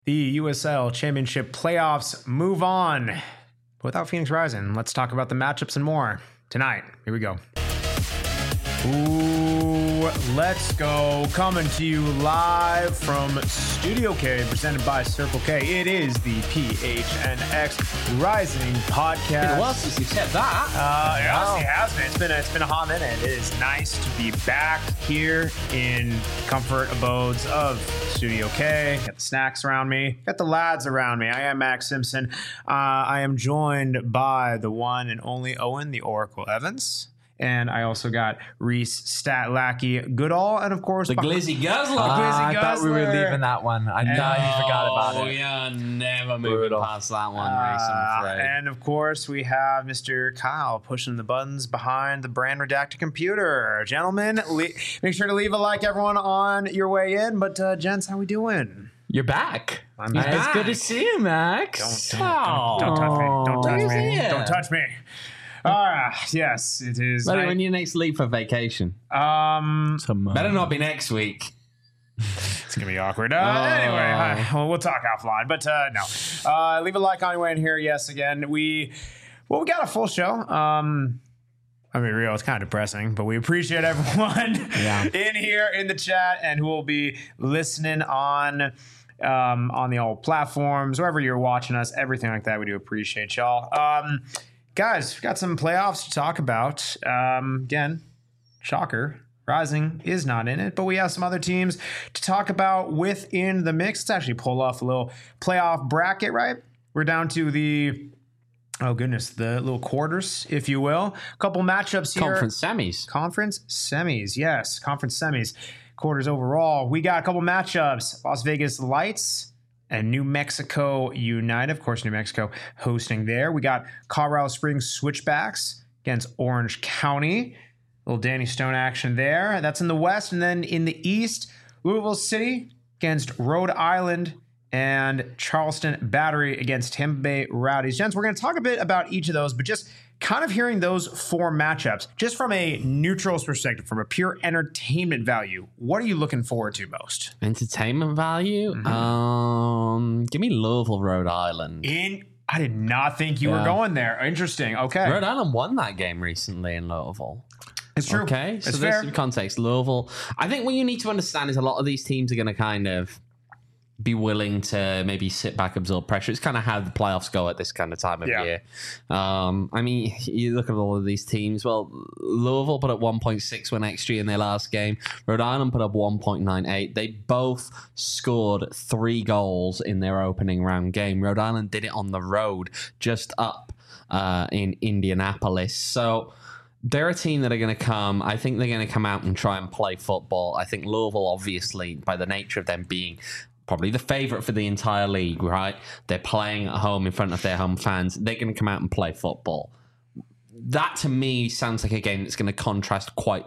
The USL Championship playoffs move on. But without Phoenix Rising, let's talk about the matchups and more tonight. Here we go. Ooh, let's go. Coming to you live from Studio K, presented by Circle K. It is the PHNX Rising podcast. Well, since you said that. It has been. It's been a hot minute. It is nice to be back here in comfort abodes of Studio K. Got the snacks around me. Got the lads around me. I am Max Simpson. I am joined by the one and only Owen, the Oracle Evans. And I also got Reese Statlackey Goodall, and of course the Glizzy Guzzler. I thought we were leaving that one. I know you forgot about it. Oh, yeah, never moving past that one, Reese, I'm afraid. And of course, we have Mr. Kyle pushing the buttons behind the brand redacted computer. Gentlemen, make sure to leave a like, everyone, on your way in. But gents, how we doing? You're back. I'm back. It's good to see you, Max. Don't touch me. Don't touch me. Don't touch me. Yes, it is. When you next leave for vacation? Better not be next week. It's gonna be awkward. Anyway, we'll talk offline. But no, leave a like on your way in here. Yes, again, we got a full show. I mean, real, it's kind of depressing, but we appreciate everyone in here in the chat and who will be listening on the old platforms, wherever you're watching us, everything like that. We do appreciate y'all. Guys, we've got some playoffs to talk about. Again, shocker, Rising is not in it, but we have some other teams to talk about within the mix. Let's actually pull off a little playoff bracket, right? We're down to the little quarters, if you will. A couple matchups here. Conference semis, yes. Conference semis. Quarters overall. We got a couple matchups. Las Vegas Lights and New Mexico United. Of course, New Mexico hosting there. We got Colorado Springs Switchbacks against Orange County. Little Danny Stone action there. That's in the West. And then in the East, Louisville City against Rhode Island and Charleston Battery against Tampa Bay Rowdies. Gents, we're going to talk a bit about each of those, but just kind of hearing those four matchups, just from a neutral's perspective, from a pure entertainment value, what are you looking forward to most? Entertainment value? Mm-hmm. Give me Louisville, Rhode Island. I did not think you were going there. Interesting. Okay. Rhode Island won that game recently in Louisville. It's true. Okay, so it's there's fair. some context. Louisville, I think what you need to understand is a lot of these teams are going to kind of be willing to maybe sit back, absorb pressure. It's kind of how the playoffs go at this kind of time of year. I mean, you look at all of these teams. Well, Louisville put up 1.6 win XG in their last game. Rhode Island put up 1.98. They both scored 3 goals in their opening round game. Rhode Island did it on the road, just up in Indianapolis. So they're a team that are going to come. I think they're going to come out and try and play football. I think Louisville, obviously, by the nature of them being probably the favorite for the entire league, right? They're playing at home in front of their home fans. They're going to come out and play football. That, to me, sounds like a game that's going to contrast quite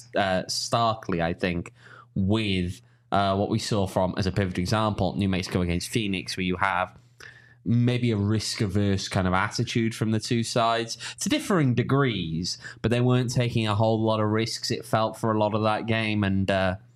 starkly, I think, with what we saw from, as a perfect example, New Mexico against Phoenix, where you have maybe a risk-averse kind of attitude from the two sides to differing degrees, but they weren't taking a whole lot of risks, it felt, for a lot of that game. And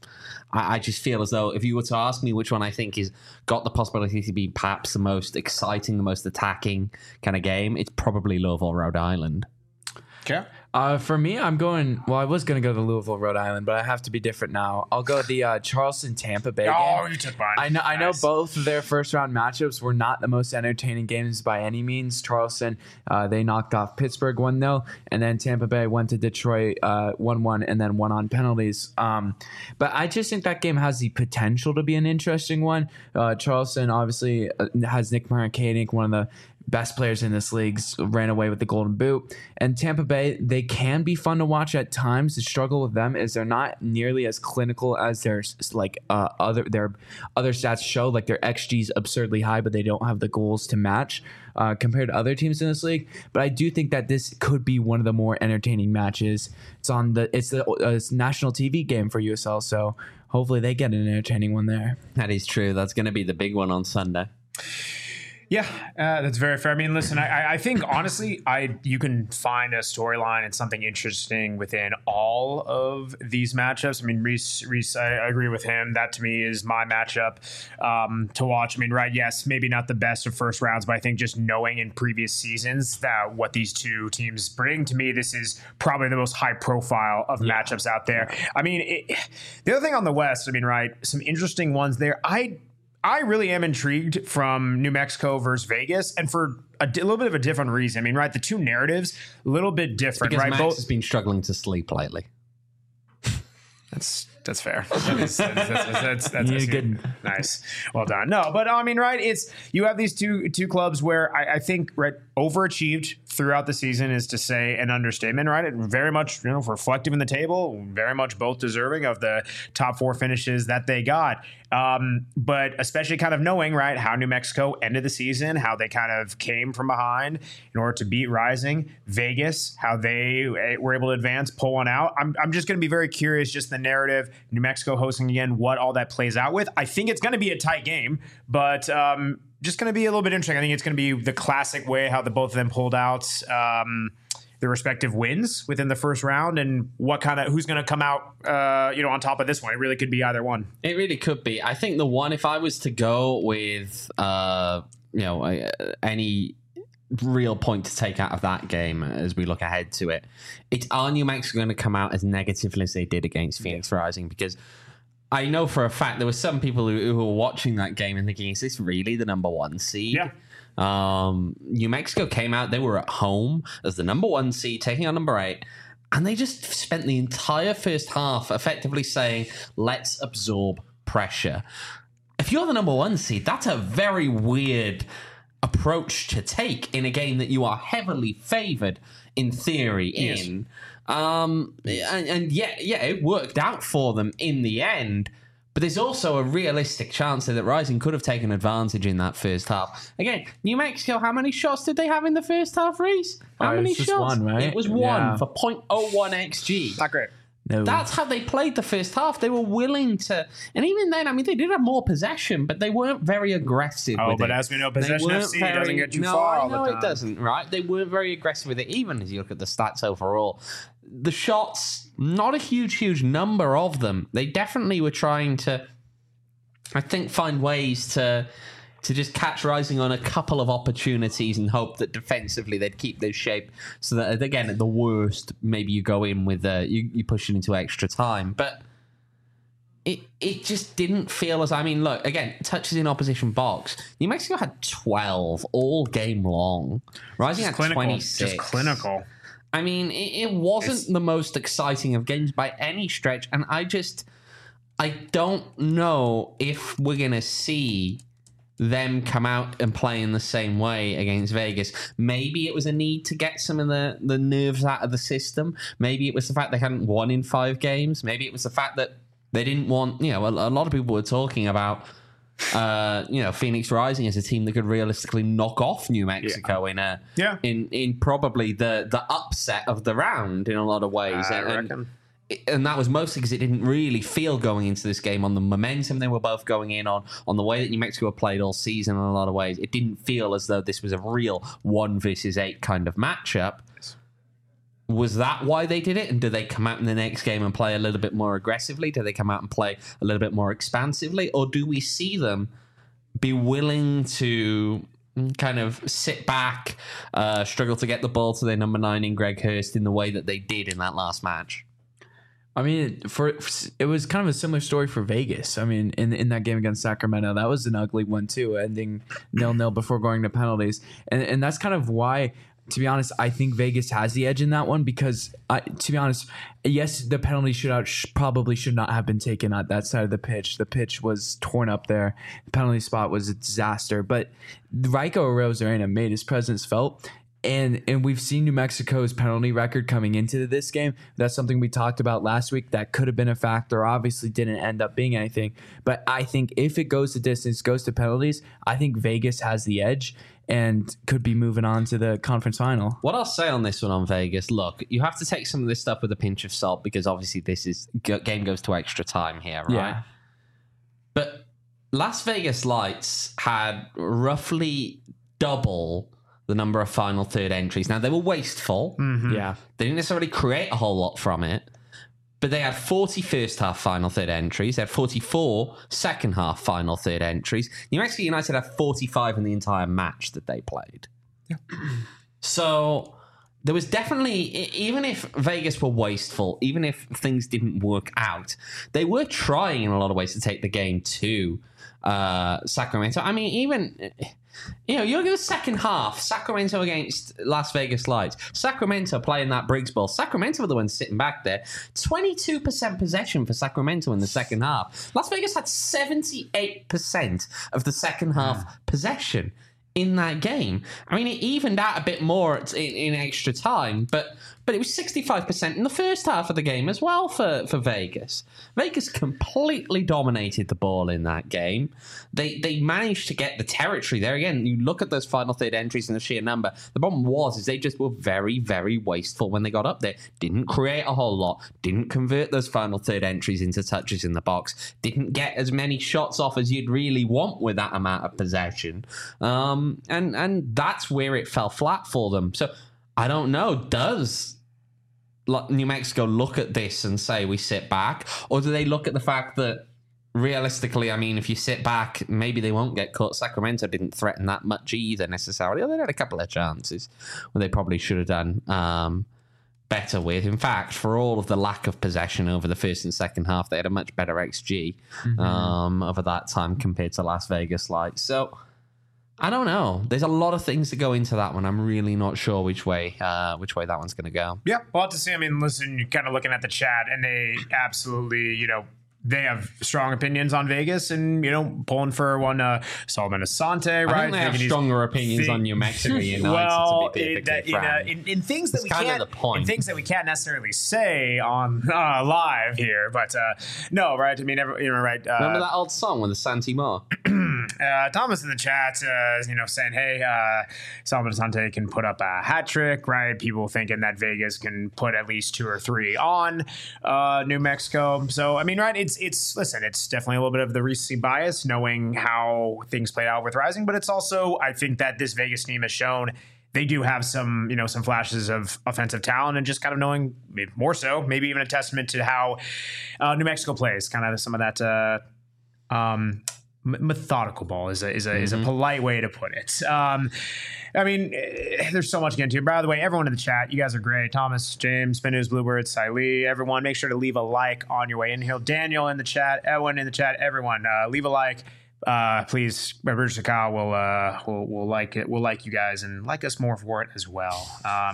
I just feel as though if you were to ask me which one I think is got the possibility to be perhaps the most exciting, the most attacking kind of game, it's probably Louisville, Rhode Island. Okay. For me, I was going to go to Louisville, Rhode Island, but I have to be different now. I'll go the Charleston Tampa Bay game. Oh, you took mine. I know both of their first round matchups were not the most entertaining games by any means. Charleston, they knocked off Pittsburgh 1-0, and then Tampa Bay went to Detroit 1-1 and then won on penalties. But I just think that game has the potential to be an interesting one. Charleston obviously has Nick Marakanik, one of the best players in this league, ran away with the Golden Boot. And Tampa Bay, they can be fun to watch at times. The struggle with them is they're not nearly as clinical as their other stats show. Like their XG is absurdly high, but they don't have the goals to match compared to other teams in this league. But I do think that this could be one of the more entertaining matches. It's the national TV game for USL, so hopefully they get an entertaining one there. That is true. That's going to be the big one on Sunday. Yeah, that's very fair. I mean, listen, I think honestly, you can find a storyline and something interesting within all of these matchups. I mean, Reese, I agree with him. That to me is my matchup to watch. I mean, right? Yes, maybe not the best of first rounds, but I think just knowing in previous seasons that what these two teams bring, to me, this is probably the most high profile of matchups out there. I mean, the other thing on the West, I mean, right? Some interesting ones there. I really am intrigued from New Mexico versus Vegas, and for a little bit of a different reason. I mean, right, the two narratives, a little bit different, because right? Max has been struggling to sleep lately. That's fair. That's good. Nice. Well done. No, but I mean, right, you have these two clubs where I think, right, overachieved throughout the season is to say an understatement, right? It very much, reflective in the table, very much both deserving of the top 4 finishes that they got. But especially kind of knowing, right, how New Mexico ended the season, how they kind of came from behind in order to beat Rising, Vegas, how they were able to advance, pull one out. I'm just going to be very curious, just the narrative, New Mexico hosting again, what all that plays out with. I think it's going to be a tight game, but just going to be a little bit interesting. I think it's going to be the classic way how the both of them pulled out the respective wins within the first round, and who's going to come out on top of this one. It really could be either one. It really could be. I think the one, if I was to go with any real point to take out of that game as we look ahead to it, are New Mexico going to come out as negatively as they did against Phoenix Rising? Because I know for a fact there were some people who were watching that game and thinking, is this really the number 1 seed? Yeah. New Mexico came out, they were at home as the number 1 seed, taking on number 8, and they just spent the entire first half effectively saying, let's absorb pressure. If you're the number 1 seed, that's a very weird approach to take in a game that you are heavily favored in theory in. And it worked out for them in the end. But there's also a realistic chance that Rising could have taken advantage in that first half. Again, New Mexico, how many shots did they have in the first half, Reese? How many shots? One, right? It was one for 0.01 XG. Not great. No. That's how they played the first half. They were willing to, and even then, I mean, they did have more possession, but they weren't very aggressive with it. But as we know, possession FC doesn't get you far all the time. No, it doesn't, right? They weren't very aggressive with it, even as you look at the stats overall. The shots, not a huge number of them. They definitely were trying to, I think, find ways to just catch Rising on a couple of opportunities and hope that defensively they'd keep their shape so that, again, at the worst, maybe you go in with you push it into extra time. But it just didn't feel as... I mean, look, again, touches in opposition box. New Mexico had 12 all game long. Rising had 26. Just clinical. I mean, it wasn't the most exciting of games by any stretch, and I don't know if we're going to see them come out and play in the same way against Vegas. Maybe it was a need to get some of the nerves out of the system. Maybe it was the fact they hadn't won in 5 games. Maybe it was the fact that they didn't want, a lot of people were talking about, Phoenix Rising as a team that could realistically knock off New Mexico in probably the upset of the round in a lot of ways. I reckon. And that was mostly because it didn't really feel going into this game on the momentum they were both going in on the way that New Mexico played all season in a lot of ways. It didn't feel as though this was a real 1 versus 8 kind of matchup. Was that why they did it? And do they come out in the next game and play a little bit more aggressively? Do they come out and play a little bit more expansively? Or do we see them be willing to kind of sit back, struggle to get the ball to their number 9 in Greg Hurst in the way that they did in that last match? I mean, it was kind of a similar story for Vegas. I mean, in that game against Sacramento, that was an ugly one too, ending 0-0 before going to penalties. And that's kind of why, to be honest, I think Vegas has the edge in that one because, to be honest, yes, the penalty shootout probably should not have been taken at that side of the pitch. The pitch was torn up there. The penalty spot was a disaster. But Raiko Arozarena made his presence felt. And we've seen New Mexico's penalty record coming into this game. That's something we talked about last week. That could have been a factor. Obviously didn't end up being anything. But I think if it goes to distance, goes to penalties, I think Vegas has the edge and could be moving on to the conference final. What I'll say on this one on Vegas, look, you have to take some of this stuff with a pinch of salt because obviously game goes to extra time here, right? Yeah. But Las Vegas Lights had roughly double the number of final third entries. Now, they were wasteful. Yeah. They didn't necessarily create a whole lot from it, but they had 40 first half final third entries. They had 44 second half final third entries. New Mexico United had 45 in the entire match that they played. Yeah. So there was definitely, even if Vegas were wasteful, even if things didn't work out, they were trying in a lot of ways to take the game to Sacramento. I mean, even, you know, you look at the second half, Sacramento against Las Vegas Lights. Sacramento playing that Briggs Bowl. Sacramento were the ones sitting back there. 22% possession for Sacramento in the second half. Las Vegas had 78% of the second half possession in that game. I mean, it evened out a bit more in extra time, but it was 65% in the first half of the game as well for Vegas. Vegas completely dominated the ball in that game. They managed to get the territory there. Again, you look at those final third entries and the sheer number. The problem is they just were very, very wasteful when they got up there. Didn't create a whole lot. Didn't convert those final third entries into touches in the box. Didn't get as many shots off as you'd really want with that amount of possession. And that's where it fell flat for them. So I don't know. Does New Mexico look at this and say we sit back? Or do they look at the fact that realistically, I mean, if you sit back, maybe they won't get caught. Sacramento didn't threaten that much either necessarily. They had a couple of chances where they probably should have done better with. In fact, for all of the lack of possession over the first and second half, they had a much better XG over that time compared to Las Vegas Lights. So I don't know. There's a lot of things that go into that one. I'm really not sure which way that one's going to go. Yeah, we'll have to see. I mean, listen, you're kind of looking at the chat, and they absolutely, you know, they have strong opinions on Vegas, and, you know, pulling for one Solomon Asante, right? I think they have stronger opinions on New Mexico United. Well, in things that we can't, in things that we can't necessarily say on live here, but no, right? I mean, right? Remember that old song with the Santi Moore? Thomas in the chat, you know, saying, "Hey, Solomon Asante can put up a hat trick," right? People thinking that Vegas can put at least 2 or 3 on New Mexico. So, I mean, right? It's listen, it's definitely a little bit of the recency bias, knowing how things played out with Rising, but it's also, I think that this Vegas team has shown they do have some, you know, some flashes of offensive talent, and just kind of knowing, maybe more so, maybe even a testament to how New Mexico plays. Kind of some of that methodical ball is a polite way to put it. I mean, there's so much to get into. By the way, everyone in the chat, you guys are great. Thomas, James, Spin News, Bluebird, Siley, everyone, make sure to leave a like on your way in here. Daniel in the chat, everyone in the chat, everyone, leave a like. Please, Bridge to Kyle will like it. We'll like you guys and like us more for it as well.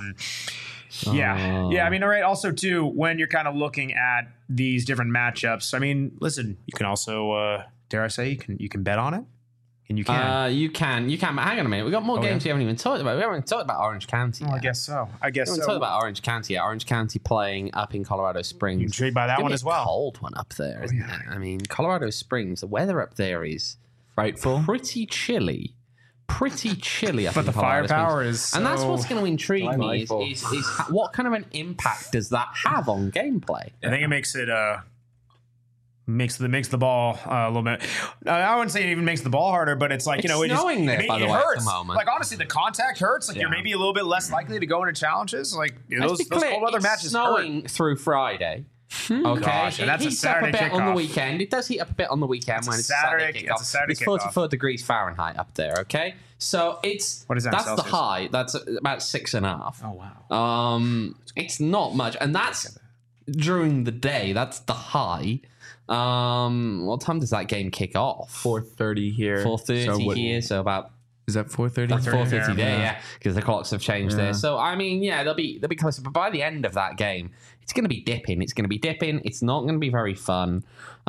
Yeah. I mean, all right. Also, too, when you're kind of looking at these different matchups, I mean, listen, you can also, dare I say, you can bet on it. And you can. You can. But hang on a minute. We've got more games we haven't even talked about. We haven't even talked about Orange County yet. I guess so. We haven't talked about Orange County yet. Orange County playing up in Colorado Springs. You intrigued by that one as well. Cold one up there, isn't it? I mean, Colorado Springs, the weather up there is frightful. Pretty chilly. But the firepower is so and that's what's going to intrigue me is what kind of an impact does that have on gameplay? I think it makes it makes the ball a little bit. I wouldn't say it even makes the ball harder, but it's like, it's you know, snowing there, by the way, hurts. at the moment. Like, honestly, the contact hurts. Like, you're maybe a little bit less likely to go into challenges. Like, those cold weather matches snowing through Friday. Okay, gosh, and that's a Saturday up a bit kickoff on the weekend. It does heat up a bit on the weekend when it's a Saturday kickoff. It's 44 degrees Fahrenheit up there. Okay, so it's what is that? That's Celsius? The high. That's about 6.5. Oh wow. It's not much, and that's during the day. That's the high. What time does that game kick off? 4:30 here. 4:30 here. So about. Is that 4:30? That's 4:30 there, yeah, because the clocks have changed there. So I mean, yeah, they'll be closer. But by the end of that game, it's going to be dipping. It's not going to be very fun.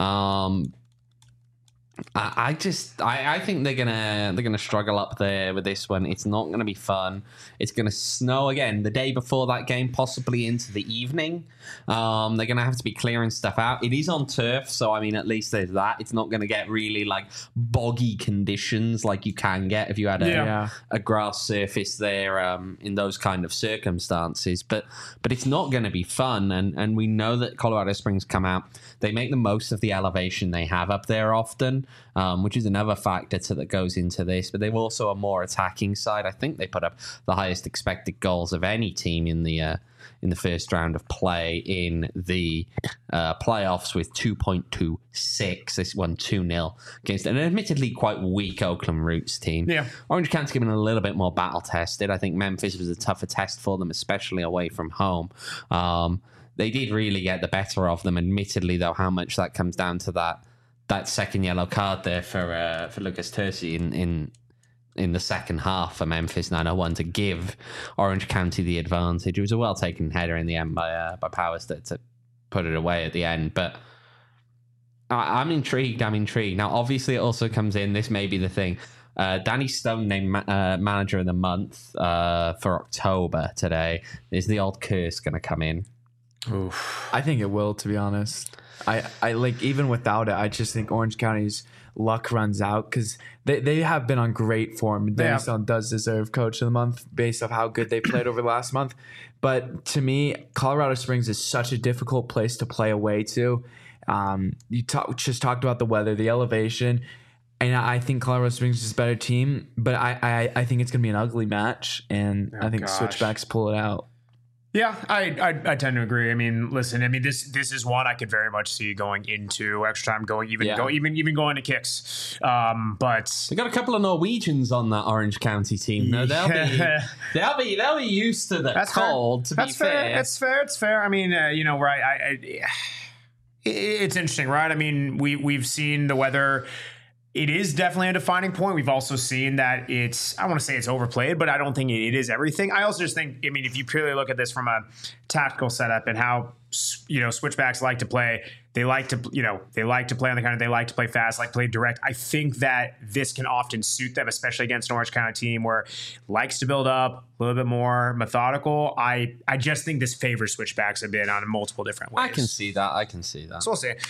I think they're gonna struggle up there with this one. It's not gonna be fun. It's gonna snow again the day before that game, possibly into the evening. They're gonna have to be clearing stuff out. It is on turf, so I mean, at least there's that. It's not gonna get really like boggy conditions like you can get if you had a grass surface there in those kind of circumstances. But it's not gonna be fun, and we know that Colorado Springs come out. They make the most of the elevation they have up there often. which is another factor that goes into this. But they've also a more attacking side. I think they put up the highest expected goals of any team in the first round of play in the playoffs with 2.26. This won 2-0 against an admittedly quite weak Oakland Roots team. Yeah. Orange County's given a little bit more battle tested. I think Memphis was a tougher test for them, especially away from home. They did really get the better of them, admittedly, though, how much that comes down to that second yellow card there for Lucas Terzi in the second half for Memphis 901 to give Orange County the advantage. It was a well-taken header in the end by Powers to put it away at the end. But I'm intrigued. Now, obviously, it also comes in, this may be the thing, Danny Stone named Manager of the Month for October today. Is the old curse going to come in? Oof. I think it will, to be honest. I like, even without it, I just think Orange County's luck runs out because they have been on great form. Danny Stone does deserve Coach of the Month based off how good they played over the last month. But to me, Colorado Springs is such a difficult place to play away to. You just talked about the weather, the elevation, and I think Colorado Springs is a better team. But I think it's going to be an ugly match, and I think Switchbacks pull it out. Yeah, I tend to agree. I mean, listen, this is one I could very much see going into extra time, going to kicks. But they got a couple of Norwegians on that Orange County team. No, they'll be used to the cold. To be fair, it's fair. I mean, right? It's interesting, right? I mean, we've seen the weather. It is definitely a defining point. We've also seen that I want to say it's overplayed, but I don't think it is everything. I also just think, if you purely look at this from a tactical setup and how, switchbacks like to play, they like to play on the counter. They like to play fast, like play direct. I think that this can often suit them, especially against an Orange County team where likes to build up, a little bit more methodical. I just think this favors switchbacks a bit on multiple different ways. I can see that. So we'll see.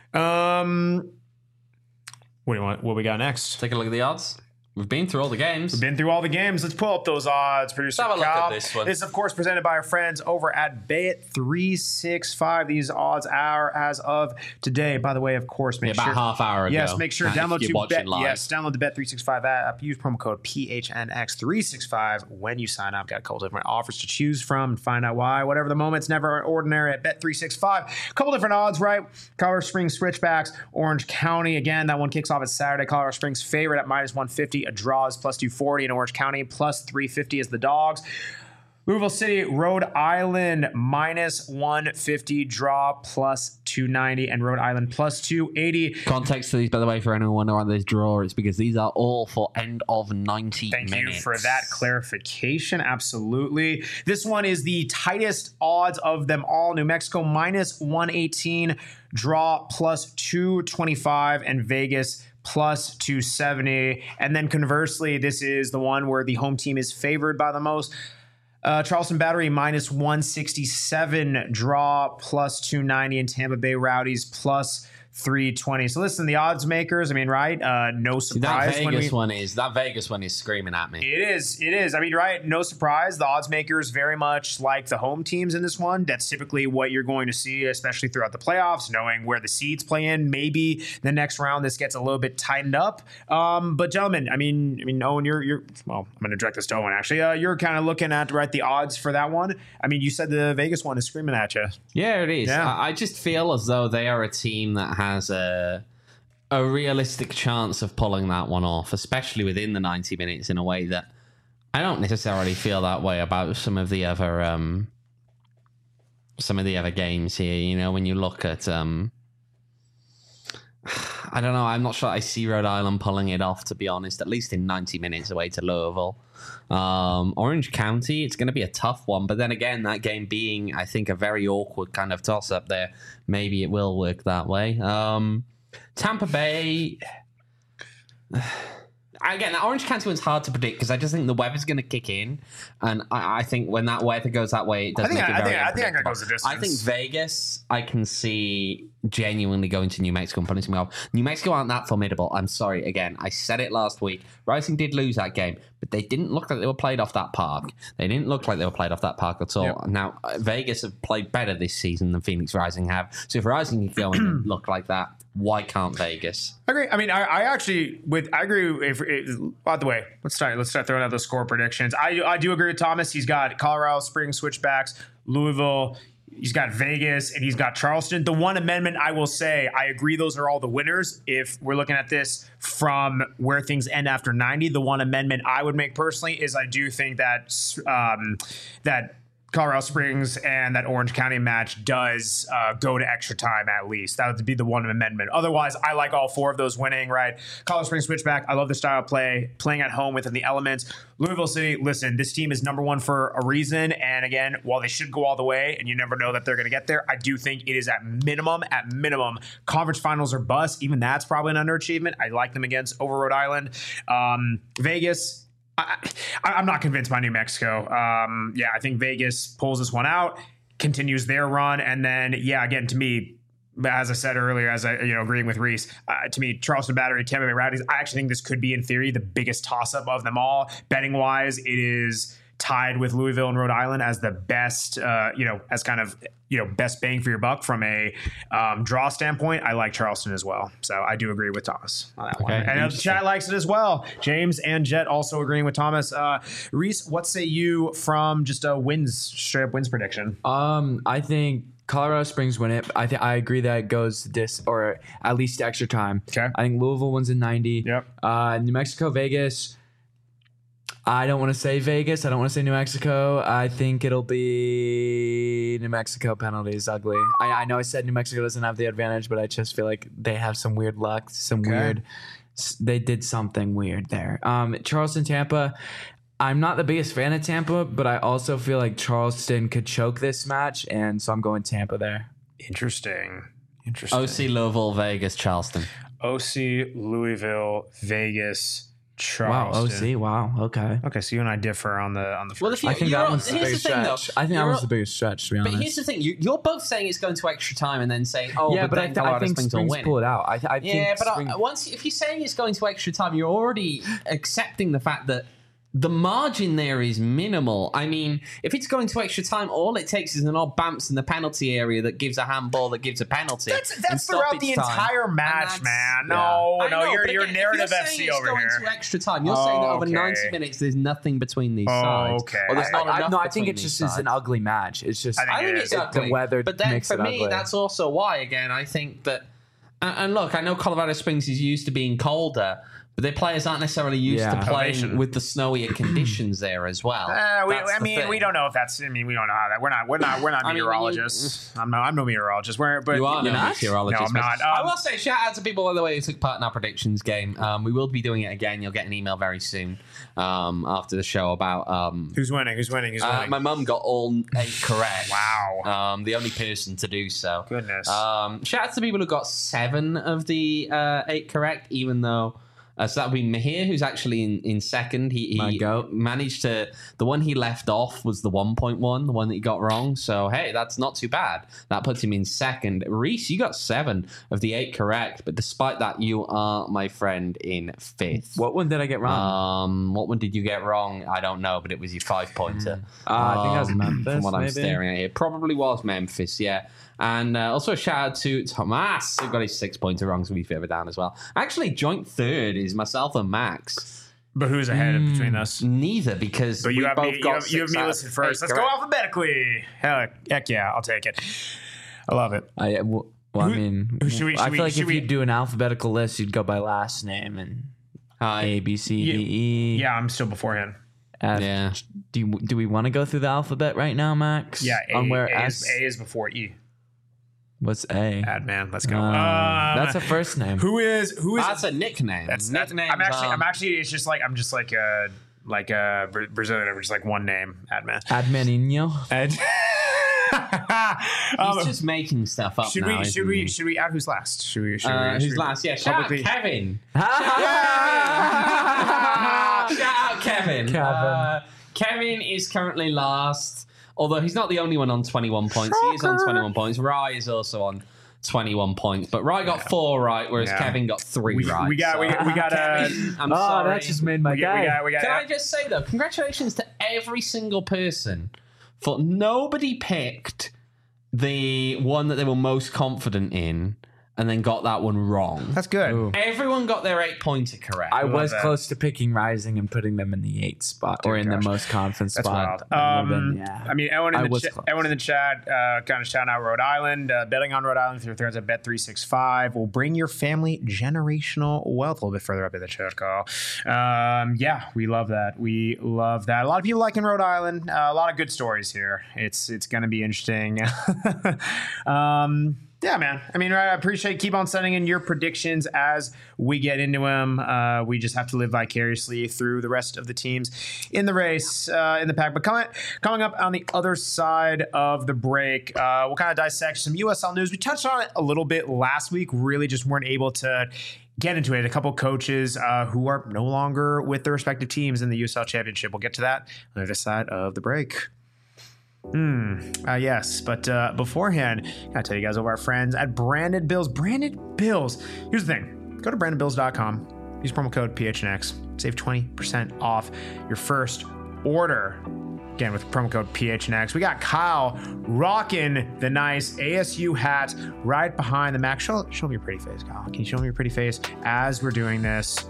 What do you want? What we got next? Take a look at the odds. We've been through all the games. Let's pull up those odds. Producer Let's have a Cal. look at this one. This is, of course, presented by our friends over at Bet365. These odds are as of today. By the way, of course, about half hour ago. Yes, make sure to download download the Bet365 app. Use promo code PHNX365 when you sign up. Got a couple different offers to choose from and find out why. Whatever the moment's never ordinary at Bet365. A couple different odds, right? Colorado Springs Switchbacks, Orange County. Again, that one kicks off at Saturday. Colorado Springs favorite at -150. A draw is +240 in Orange County. +350 is the Dogs. Louisville City, Rhode Island, -150. Draw +290. And Rhode Island +280. Context to these, by the way, for anyone wondering on this draw, it's because these are all for end of 90 minutes. Thank you for that clarification. Absolutely. This one is the tightest odds of them all. New Mexico -118. Draw +225. And Vegas +270. And then conversely, this is the one where the home team is favored by the most. Charleston Battery -167, draw +290, and Tampa Bay Rowdies +320. So listen, the odds makers, right? No surprise. That Vegas one is screaming at me. It is. Right? No surprise. The odds makers very much like the home teams in this one. That's typically what you're going to see, especially throughout the playoffs, knowing where the seeds play in. Maybe the next round this gets a little bit tightened up. But gentlemen, Owen, you're well, I'm going to direct this to Owen actually. You're kind of looking at the odds for that one. You said the Vegas one is screaming at you. Yeah, it is. Yeah. I just feel as though they are a team that has a realistic chance of pulling that one off, especially within the 90 minutes, in a way that I don't necessarily feel that way about some of the other games here. When you look at I don't know, I'm not sure I see Rhode Island pulling it off, to be honest, at least in 90 minutes away to Louisville. Orange County, it's going to be a tough one, but then again, that game being, I think, a very awkward kind of toss-up there, maybe it will work that way. Tampa Bay... Again, that Orange County one's hard to predict because I just think the weather's going to kick in, and I think when that weather goes that way, it does make it very unpredictable. It goes the distance. I think Vegas, I can see genuinely going to New Mexico and putting something off. New Mexico aren't that formidable. I'm sorry. Again, I said it last week. Rising did lose that game, but they didn't look like they were played off that park. They didn't look like they were played off that park at all. Yep. Now, Vegas have played better this season than Phoenix Rising have. So if Rising can go and look like that, Why can't Vegas? I agree. I mean, I agree. By the way, let's start throwing out those score predictions. I do agree with Thomas. He's got Colorado Springs switchbacks, Louisville. He's got Vegas, and he's got Charleston. The one amendment I will say, I agree those are all the winners. If we're looking at this from where things end after 90, the one amendment I would make personally is I do think that that Colorado Springs and that Orange County match does go to extra time at least. That would be the one amendment. Otherwise, I like all four of those winning, right? Colorado Springs switchback. I love the style of play, playing at home within the elements. Louisville City, listen, this team is number one for a reason. And again, while they should go all the way and you never know that they're going to get there, I do think it is at minimum, conference finals or bust. Even that's probably an underachievement. I like them over Rhode Island. Vegas, I'm not convinced by New Mexico. I think Vegas pulls this one out, continues their run, and then, again, to me, as I said earlier, agreeing with Reese, to me, Charleston Battery, Tampa Bay Rowdies, I actually think this could be, in theory, the biggest toss-up of them all. Betting-wise, it is tied with Louisville and Rhode Island as the best, as kind of, best bang for your buck from a draw standpoint. I like Charleston as well. So I do agree with Thomas on that one. And chat likes it as well. James and Jet also agreeing with Thomas. Reese, what say you from just a straight up wins prediction? I think Colorado Springs win it. I agree that it goes or at least extra time. Okay. I think Louisville wins in 90. Yep. New Mexico, Vegas. I don't want to say Vegas. I don't want to say New Mexico. I think it'll be New Mexico penalties. Ugly. I know I said New Mexico doesn't have the advantage, but I just feel like they have some weird luck. They did something weird there. Charleston, Tampa. I'm not the biggest fan of Tampa, but I also feel like Charleston could choke this match, and so I'm going Tampa there. Interesting. OC, Louisville, Vegas, Charleston. OC, Louisville, Vegas, Charleston. Wow. Okay. Okay, so you and I differ on the first. I think that one's the biggest stretch. I think that was the biggest stretch, to be honest. But here's the thing: you're both saying it's going to extra time, and then saying, "Oh, yeah, but I think Springs will win." Pull it out. If you're saying it's going to extra time, you're already accepting the fact that the margin there is minimal. I mean, if it's going to extra time, all it takes is an odd bounce in the penalty area that gives a handball that gives a penalty. That's throughout the entire match, man. You're narrative FC over here. Going to extra time, you're saying that over 90 minutes, there's nothing between these sides. Okay. Or there's not enough I think it just is an ugly match. It's just I think it's ugly. The weather but then makes for it me, ugly. that's also why. Again, I think that. And look, I know Colorado Springs is used to being colder, but their players aren't necessarily used to playing with the snowier conditions there as well. We don't know if that's. I mean, we don't know how that. We're not meteorologists. I'm no meteorologist. But you are no meteorologist. No, I'm not. I will say shout out to people, by the way, who took part in our predictions game. We will be doing it again. You'll get an email very soon after the show about who's winning. My mum got all 8 correct. Wow. The only person to do so. Goodness. Shout out to people who got 7 of the 8 correct, even though. So that would be Mahir, who's actually in second. He managed to... The one he left off was the 1.1, the one that he got wrong. So, hey, that's not too bad. That puts him in second. Reese, you got 7 of the 8 correct. But despite that, you are, my friend, in 5th. What one did I get wrong? What one did you get wrong? I don't know, but it was your 5-pointer. I think that was Memphis, from what I'm staring at here. Probably was Memphis, yeah. And also a shout out to Tomas, who got his 6-pointer wrong, so we further down as well. Actually, joint third is myself and Max. But who's ahead between us? Neither, because you have both me, got you have me listed first. Let's go alphabetically. Heck yeah, I'll take it. I love it. I feel like if you do an alphabetical list, you'd go by last name and A, B, C, D, E. Yeah, I'm still beforehand. F. Yeah. Do we want to go through the alphabet right now, Max? Yeah, A is before E. What's A? Adman. Let's go. That's a first name. Who is? That's a nickname. I'm actually. It's just like I'm just like a Brazilian over just like one name. Adman. Admaninho. He's just making stuff up. Should we add who's last? Who's last? Yeah. Shout out Kevin. Shout out Kevin. Kevin is currently last. Although he's not the only one on 21 points. He is on 21 points. Rye is also on 21 points. But Rye got 4 right, whereas Kevin got 3 right. We got Kevin, I'm sorry. That just made my guy. Can I just say, though, congratulations to every single person, for nobody picked the one that they were most confident in and then got that one wrong. That's good. Ooh. Everyone got their 8-pointer correct. I was that. close to picking Rising and putting them in the 8th spot or in gosh. the most confident That's spot. wild. Yeah. I mean, everyone I in was the, close. everyone in the chat kind of shouting out Rhode Island. Betting on Rhode Island through threads at Bet365 will bring your family generational wealth. A little bit further up in the chat, Carl. Yeah, we love that. We love that. A lot of people liking Rhode Island. A lot of good stories here. It's going to be interesting. Yeah, man. I mean, I appreciate keep on sending in your predictions as we get into them. We just have to live vicariously through the rest of the teams in the race, in the pack. But coming up on the other side of the break, we'll kind of dissect some USL news. We touched on it a little bit last week. Really just weren't able to get into it. A couple coaches who are no longer with their respective teams in the USL Championship. We'll get to that on the other side of the break. Yes, but beforehand, I gotta tell you guys about our friends at Branded Bills. Branded Bills. Here's the thing. Go to brandedbills.com. Use promo code PHNX. Save 20% off your first order. Again, with promo code PHNX. We got Kyle rocking the nice ASU hat right behind the Mac. Show me your pretty face, Kyle. Can you show me your pretty face as we're doing this?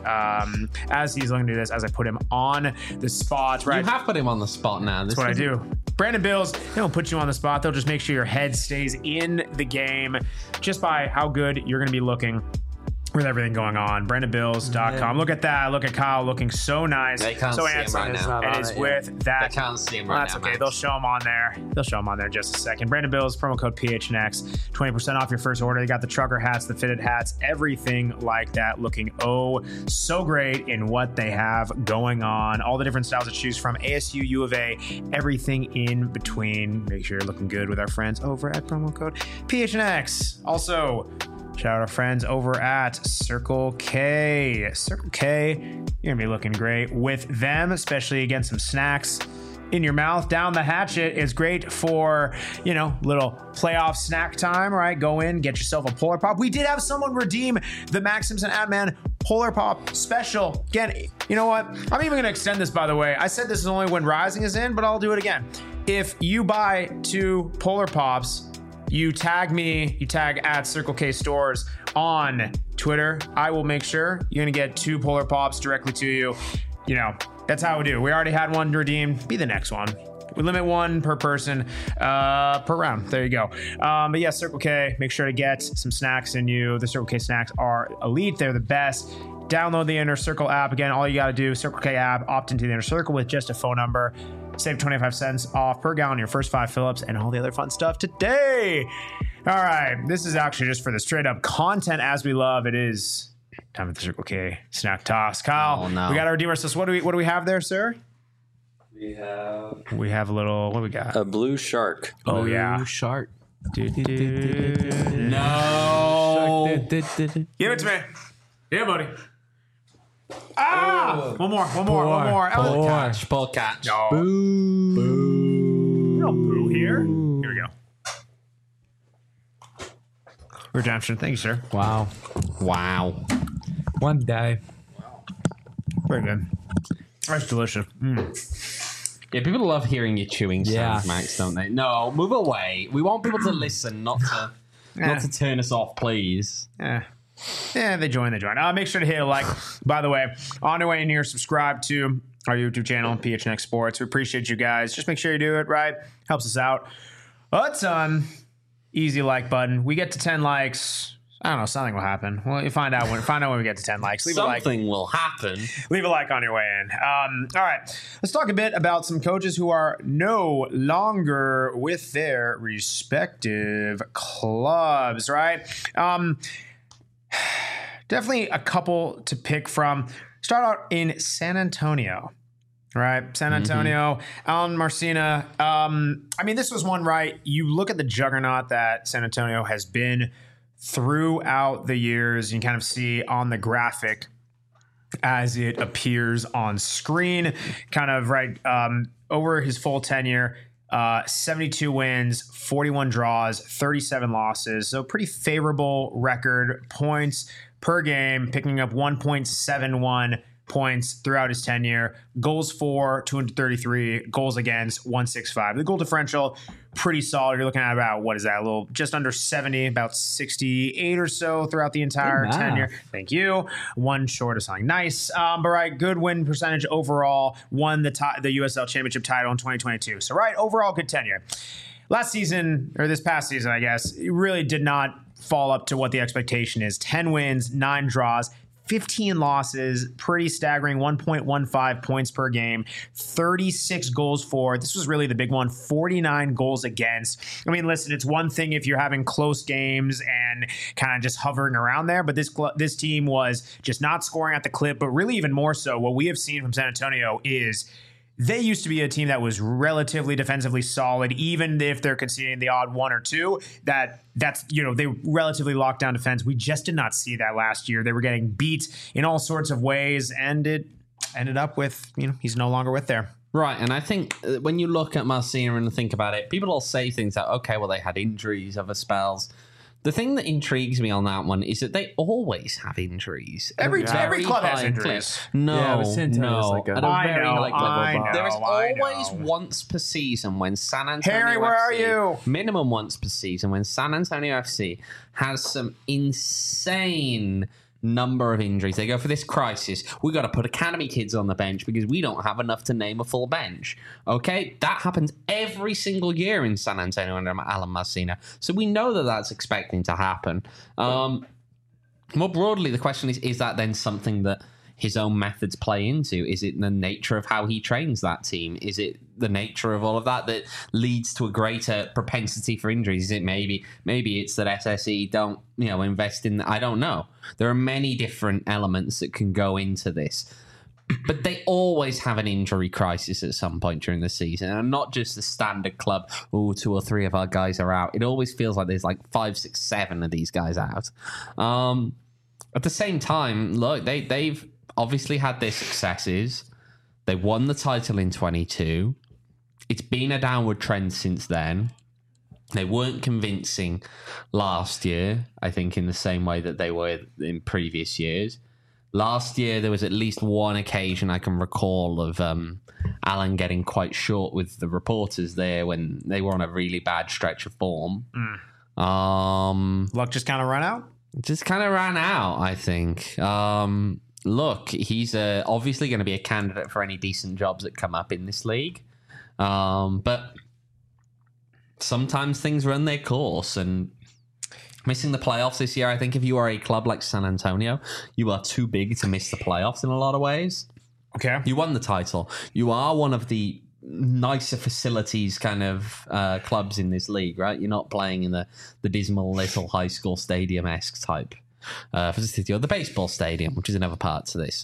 As he's looking to do this, as I put him on the spot. Right. You have put him on the spot now. That's what I do. Brandon Bills, they don't put you on the spot. They'll just make sure your head stays in the game just by how good you're going to be looking with everything going on. BrandonBills.com. Look at that. Look at Kyle looking so nice. They can't so see him handsome. right now. And is with that. They can't see him Well, right that's now, okay. Max. They'll show him on there. They'll show him on there in just a second. Brandon Bills, promo code PHNX. 20% off your first order. They got the trucker hats, the fitted hats, everything like that. Looking so great in what they have going on. All the different styles to choose from. ASU, U of A, everything in between. Make sure you're looking good with our friends over at promo code PHNX. Also, shout out our friends over at Circle K. Circle K, you're going to be looking great with them, especially against some snacks in your mouth. Down the hatchet is great for, little playoff snack time, right? Go in, get yourself a Polar Pop. We did have someone redeem the Max Simpson Ad-Man Polar Pop special. Again, you know what? I'm even going to extend this, by the way. I said this is only when Rising is in, but I'll do it again. If you buy 2 Polar Pops, you tag me, you tag at Circle K Stores on Twitter, I will make sure you're going to get 2 Polar Pops directly to you. That's how we do. We already had one redeemed. Be the next one. We limit 1 per person per round. There you go. But yeah, Circle K, make sure to get some snacks in you. The Circle K snacks are elite. They're the best. Download the Inner Circle app. Again, all you got to do, Circle K app, opt into the Inner Circle with just a phone number. Save 25 cents off per gallon your first 5 fill-ups and all the other fun stuff today. All right. This is actually just for the straight up content as we love. It is time for the Circle K snack toss. Kyle, we got to redeem ourselves. What do we have there, sir? We have a little, what do we got? a blue shark. Oh, yeah. Blue shark. No. Give it to me. Yeah, buddy. Ah! One more. Poor catch. Poor catch. No. Boo. No boo here. Here we go. Redemption. Thank you, sir. Wow. One day. Very good. That's delicious. Yeah, people love hearing you chewing sounds, Yeah. Max, don't they? No, move away. We want people to listen, not to turn us off, please. Yeah, they join. Make sure to hit a like. By the way, on your way in here, subscribe to our YouTube channel, PHNX Sports. We appreciate you guys. Just make sure you do it right. Helps us out a ton. Easy like button. We get to 10 likes. I don't know. Something will happen. Well, you find out when we get to 10 likes. Leave a like. Something will happen. Leave a like on your way in. All right. Let's talk a bit about some coaches who are no longer with their respective clubs, right? Definitely a couple to pick from. Start out in San Antonio, right? San Antonio, Alan Marcina. This was one, right? You look at the juggernaut that San Antonio has been throughout the years. You can kind of see on the graphic as it appears on screen, kind of right over his full tenure. 72 wins, 41 draws, 37 losses. So pretty favorable record. Points per game, picking up 1.71 points throughout his tenure. Goals for 233, goals against 165. The goal differential, pretty solid. You're looking at about, what is that, a little just under 70, about 68 or so throughout the entire tenure. Thank you. One short of something nice. But right, good win percentage overall. Won the USL Championship title in 2022. So right, overall good tenure. Last season, or this past season, I guess, it really did not fall up to what the expectation is. 10 wins, 9 draws, 15 losses, pretty staggering, 1.15 points per game, 36 goals for. This was really the big one, 49 goals against. I mean, listen, it's one thing if you're having close games and kind of just hovering around there, but this team was just not scoring at the clip, but really even more so, what we have seen from San Antonio is they used to be a team that was relatively defensively solid, even if they're conceding the odd 1 or 2. That's they relatively locked down defense. We just did not see that last year. They were getting beat in all sorts of ways, and it ended up with he's no longer with there. Right, and I think when you look at Marcina and think about it, people all say things like, okay, well, they had injuries, other spells. The thing that intrigues me on that one is that they always have injuries. Every club has injuries. No. Like at a very I know. There is always once per season when San Antonio Harry, where are you? Minimum once per season when San Antonio FC has some insane number of injuries. They go for this crisis. We got to put academy kids on the bench because we don't have enough to name a full bench. Okay, that happens every single year in San Antonio under Alan Marcina. So we know that that's expecting to happen. More broadly, the question is that then something that his own methods play into? Is it the nature of how he trains that team? Is it the nature of all of that leads to a greater propensity for injuries? Is it maybe it's that SSE don't invest in? I don't know. There are many different elements that can go into this, but they always have an injury crisis at some point during the season, and not just the standard club. 2 or 3 of our guys are out. It always feels like there's like 5, 6, 7 of these guys out. At the same time, look, they've obviously had their successes. They won the title in 22. It's been a downward trend since then. They weren't convincing last year, I think, in the same way that they were in previous years. Last year, there was at least one occasion I can recall of Alan getting quite short with the reporters there when they were on a really bad stretch of form. Luck just kind of ran out? Just kind of ran out, I think. Look, he's obviously going to be a candidate for any decent jobs that come up in this league. But sometimes things run their course, and missing the playoffs this year, I think if you are a club like San Antonio, you are too big to miss the playoffs in a lot of ways. Okay. You won the title. You are one of the nicer facilities kind of clubs in this league, right? You're not playing in the dismal little high school stadium-esque type facility, or the baseball stadium, which is another part to this.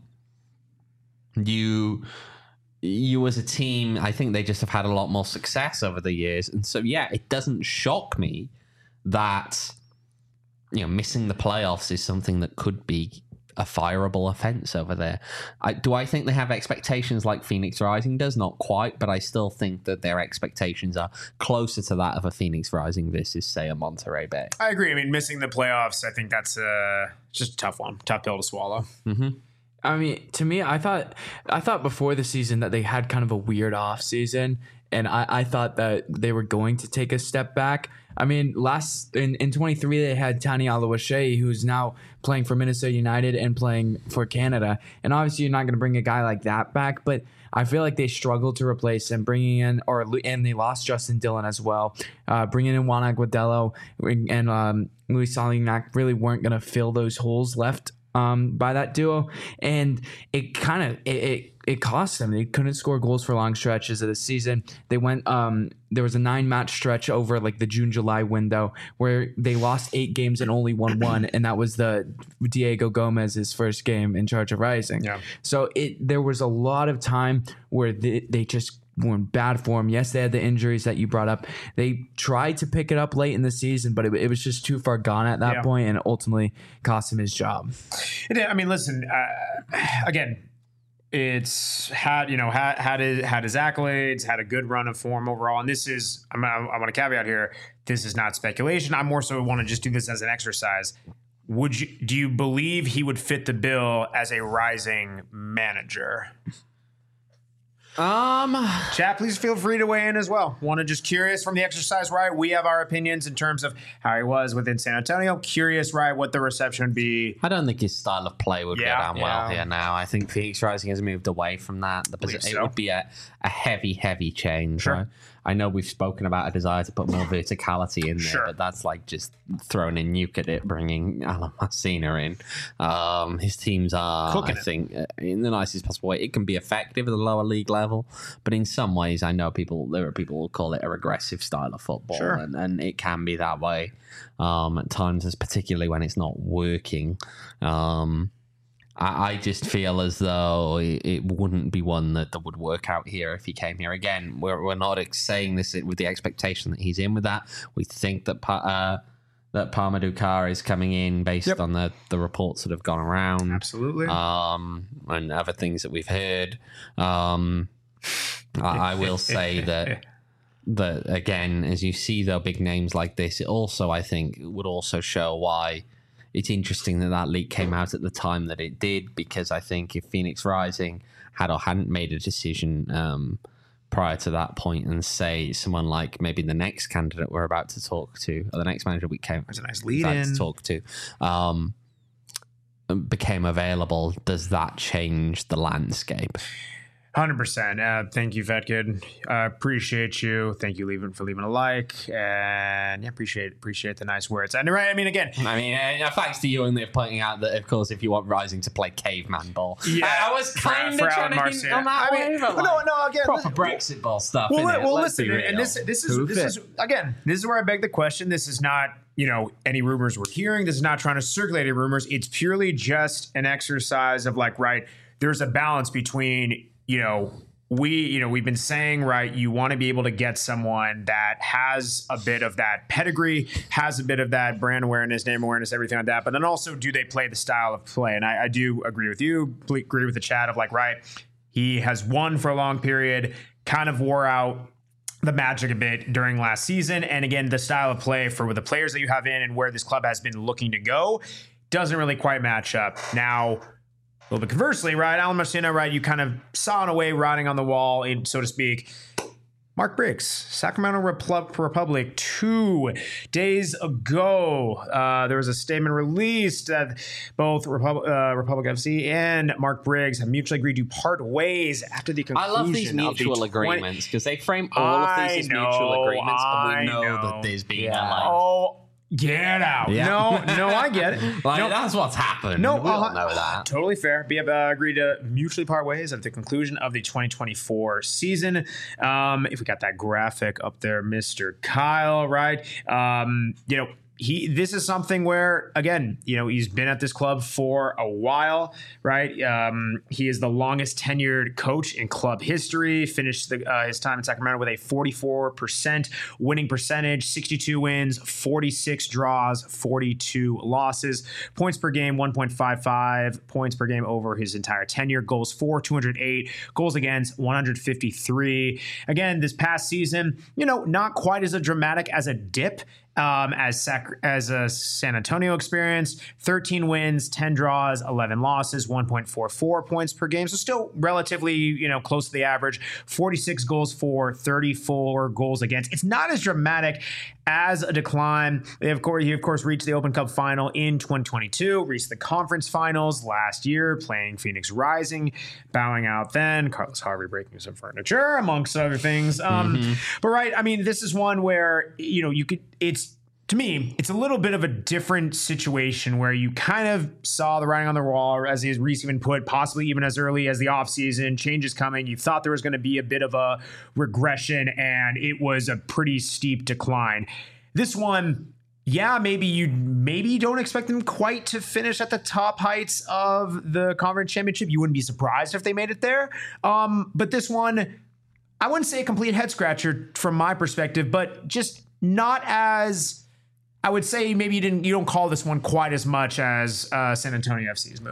You as a team, I think they just have had a lot more success over the years. And so, yeah, it doesn't shock me that, missing the playoffs is something that could be a fireable offense over there. Do I think they have expectations like Phoenix Rising does? Not quite, but I still think that their expectations are closer to that of a Phoenix Rising versus, say, a Monterey Bay. I agree. I mean, missing the playoffs, I think that's just a tough one. Tough pill to swallow. Mm-hmm. I mean, to me, I thought before the season that they had kind of a weird off season, and I thought that they were going to take a step back. I mean, in 23 they had Tani Aluwashe, who's now playing for Minnesota United and playing for Canada, and obviously you're not going to bring a guy like that back, but I feel like they struggled to replace him, and they lost Justin Dillon as well. Bringing in Juan Aguadelo and Luis Salignac really weren't going to fill those holes left by that duo, and it kind of it cost them. They couldn't score goals for long stretches of the season. They went there was a 9-match stretch over like the June-July window where they lost 8 games and only won 1, and that was the Diego Gomez's first game in charge of Rising. Yeah. So there was a lot of time where they just were in bad form. Yes, they had the injuries that you brought up. They tried to pick it up late in the season, but it was just too far gone at that point, and it ultimately cost him his job. I mean, listen, again, it's had his accolades, had a good run of form overall, and this is I want to caveat here. This is not speculation. I more so want to just do this as an exercise. do you believe he would fit the bill as a rising manager? Chat, please feel free to weigh in as well. Want to just curious from the exercise, right? We have our opinions in terms of how he was within San Antonio. Curious, right, what the reception would be. I don't think his style of play would go down well here now. I think Phoenix Rising has moved away from that. It would be a heavy change. Sure. Right? I know we've spoken about a desire to put more verticality in there, Sure. but that's like just throwing a nuke at it, bringing Alan Messina in. His teams are, Cooking I think, in the nicest possible way. It can be effective at the lower league level, but in some ways, I know there are people who call it a regressive style of football, Sure. and it can be that way at times, particularly when it's not working. I just feel as though it wouldn't be one that would work out here if he came here. Again, we're not saying this with the expectation that he's in with that. We think that that Palma Dukar is coming in based on the reports that have gone around. Absolutely. And other things that we've heard. I will say that again, as you see the big names like this, it also, I think, would also show why it's interesting that leak came out at the time that it did, because I think if Phoenix Rising had or hadn't made a decision prior to that point, and say someone like maybe the next candidate we're about to talk to, or the next manager we came That's a nice lead in to talk to, became available, does that change the landscape? 100%. Thank you, Vetkid. Appreciate you. Thank you, for leaving a like, and appreciate the nice words. And right, I mean, again, thanks to you and they're pointing out that, of course, if you want Rising to play caveman ball, I was kind of trying to hint on that way, but again, proper Brexit ball stuff. Listen, and this is again, this is where I beg the question. This is not, any rumors we're hearing. This is not trying to circulate any rumors. It's purely just an exercise of like, right, there's a balance between, we've been saying, right, you want to be able to get someone that has a bit of that pedigree, has a bit of that brand awareness, name awareness, everything like that. But then also, do they play the style of play? And I do agree with you, agree with the chat of like, right, he has won for a long period, kind of wore out the magic a bit during last season. And again, the style of play for the players that you have in and where this club has been looking to go doesn't really quite match up. Now, a little bit conversely, right? Alan Messina, right? You kind of saw in a way writing on the wall, so to speak. Mark Briggs, Sacramento Republic, 2 days ago. There was a statement released that both Republic FC and Mark Briggs have mutually agreed to part ways after the conclusion. I love these mutual agreements because they frame all of these as mutual agreements, and we know that there's been Get out. Yeah. No, I get it. That's what's happened. No, we all know that. Totally fair. We have agreed to mutually part ways at the conclusion of the 2024 season. If we got that graphic up there, Mr. Kyle, right? This is something where, again, he's been at this club for a while, right? He is the longest tenured coach in club history, finished his time in Sacramento with a 44% winning percentage, 62 wins, 46 draws, 42 losses, points per game, 1.55 points per game over his entire tenure, goals for 208, goals against 153. Again, this past season, not quite as dramatic as a dip as a San Antonio experience, 13 wins, 10 draws, 11 losses, 1.44 points per game. So still relatively, close to the average, 46 goals for, 34 goals against. It's not as dramatic as a decline. He of course reached the Open Cup final in 2022, reached the conference finals last year, playing Phoenix Rising, bowing out then, Carlos Harvey breaking some furniture, amongst other things. But right, I mean, this is one where, to me, it's a little bit of a different situation where you kind of saw the writing on the wall, as Reese even put, possibly even as early as the offseason, changes coming. You thought there was going to be a bit of a regression, and it was a pretty steep decline. This one, maybe you don't expect them quite to finish at the top heights of the conference championship. You wouldn't be surprised if they made it there. But this one, I wouldn't say a complete head scratcher from my perspective, but just not as, I would say maybe you don't call this one quite as much as San Antonio FC's move.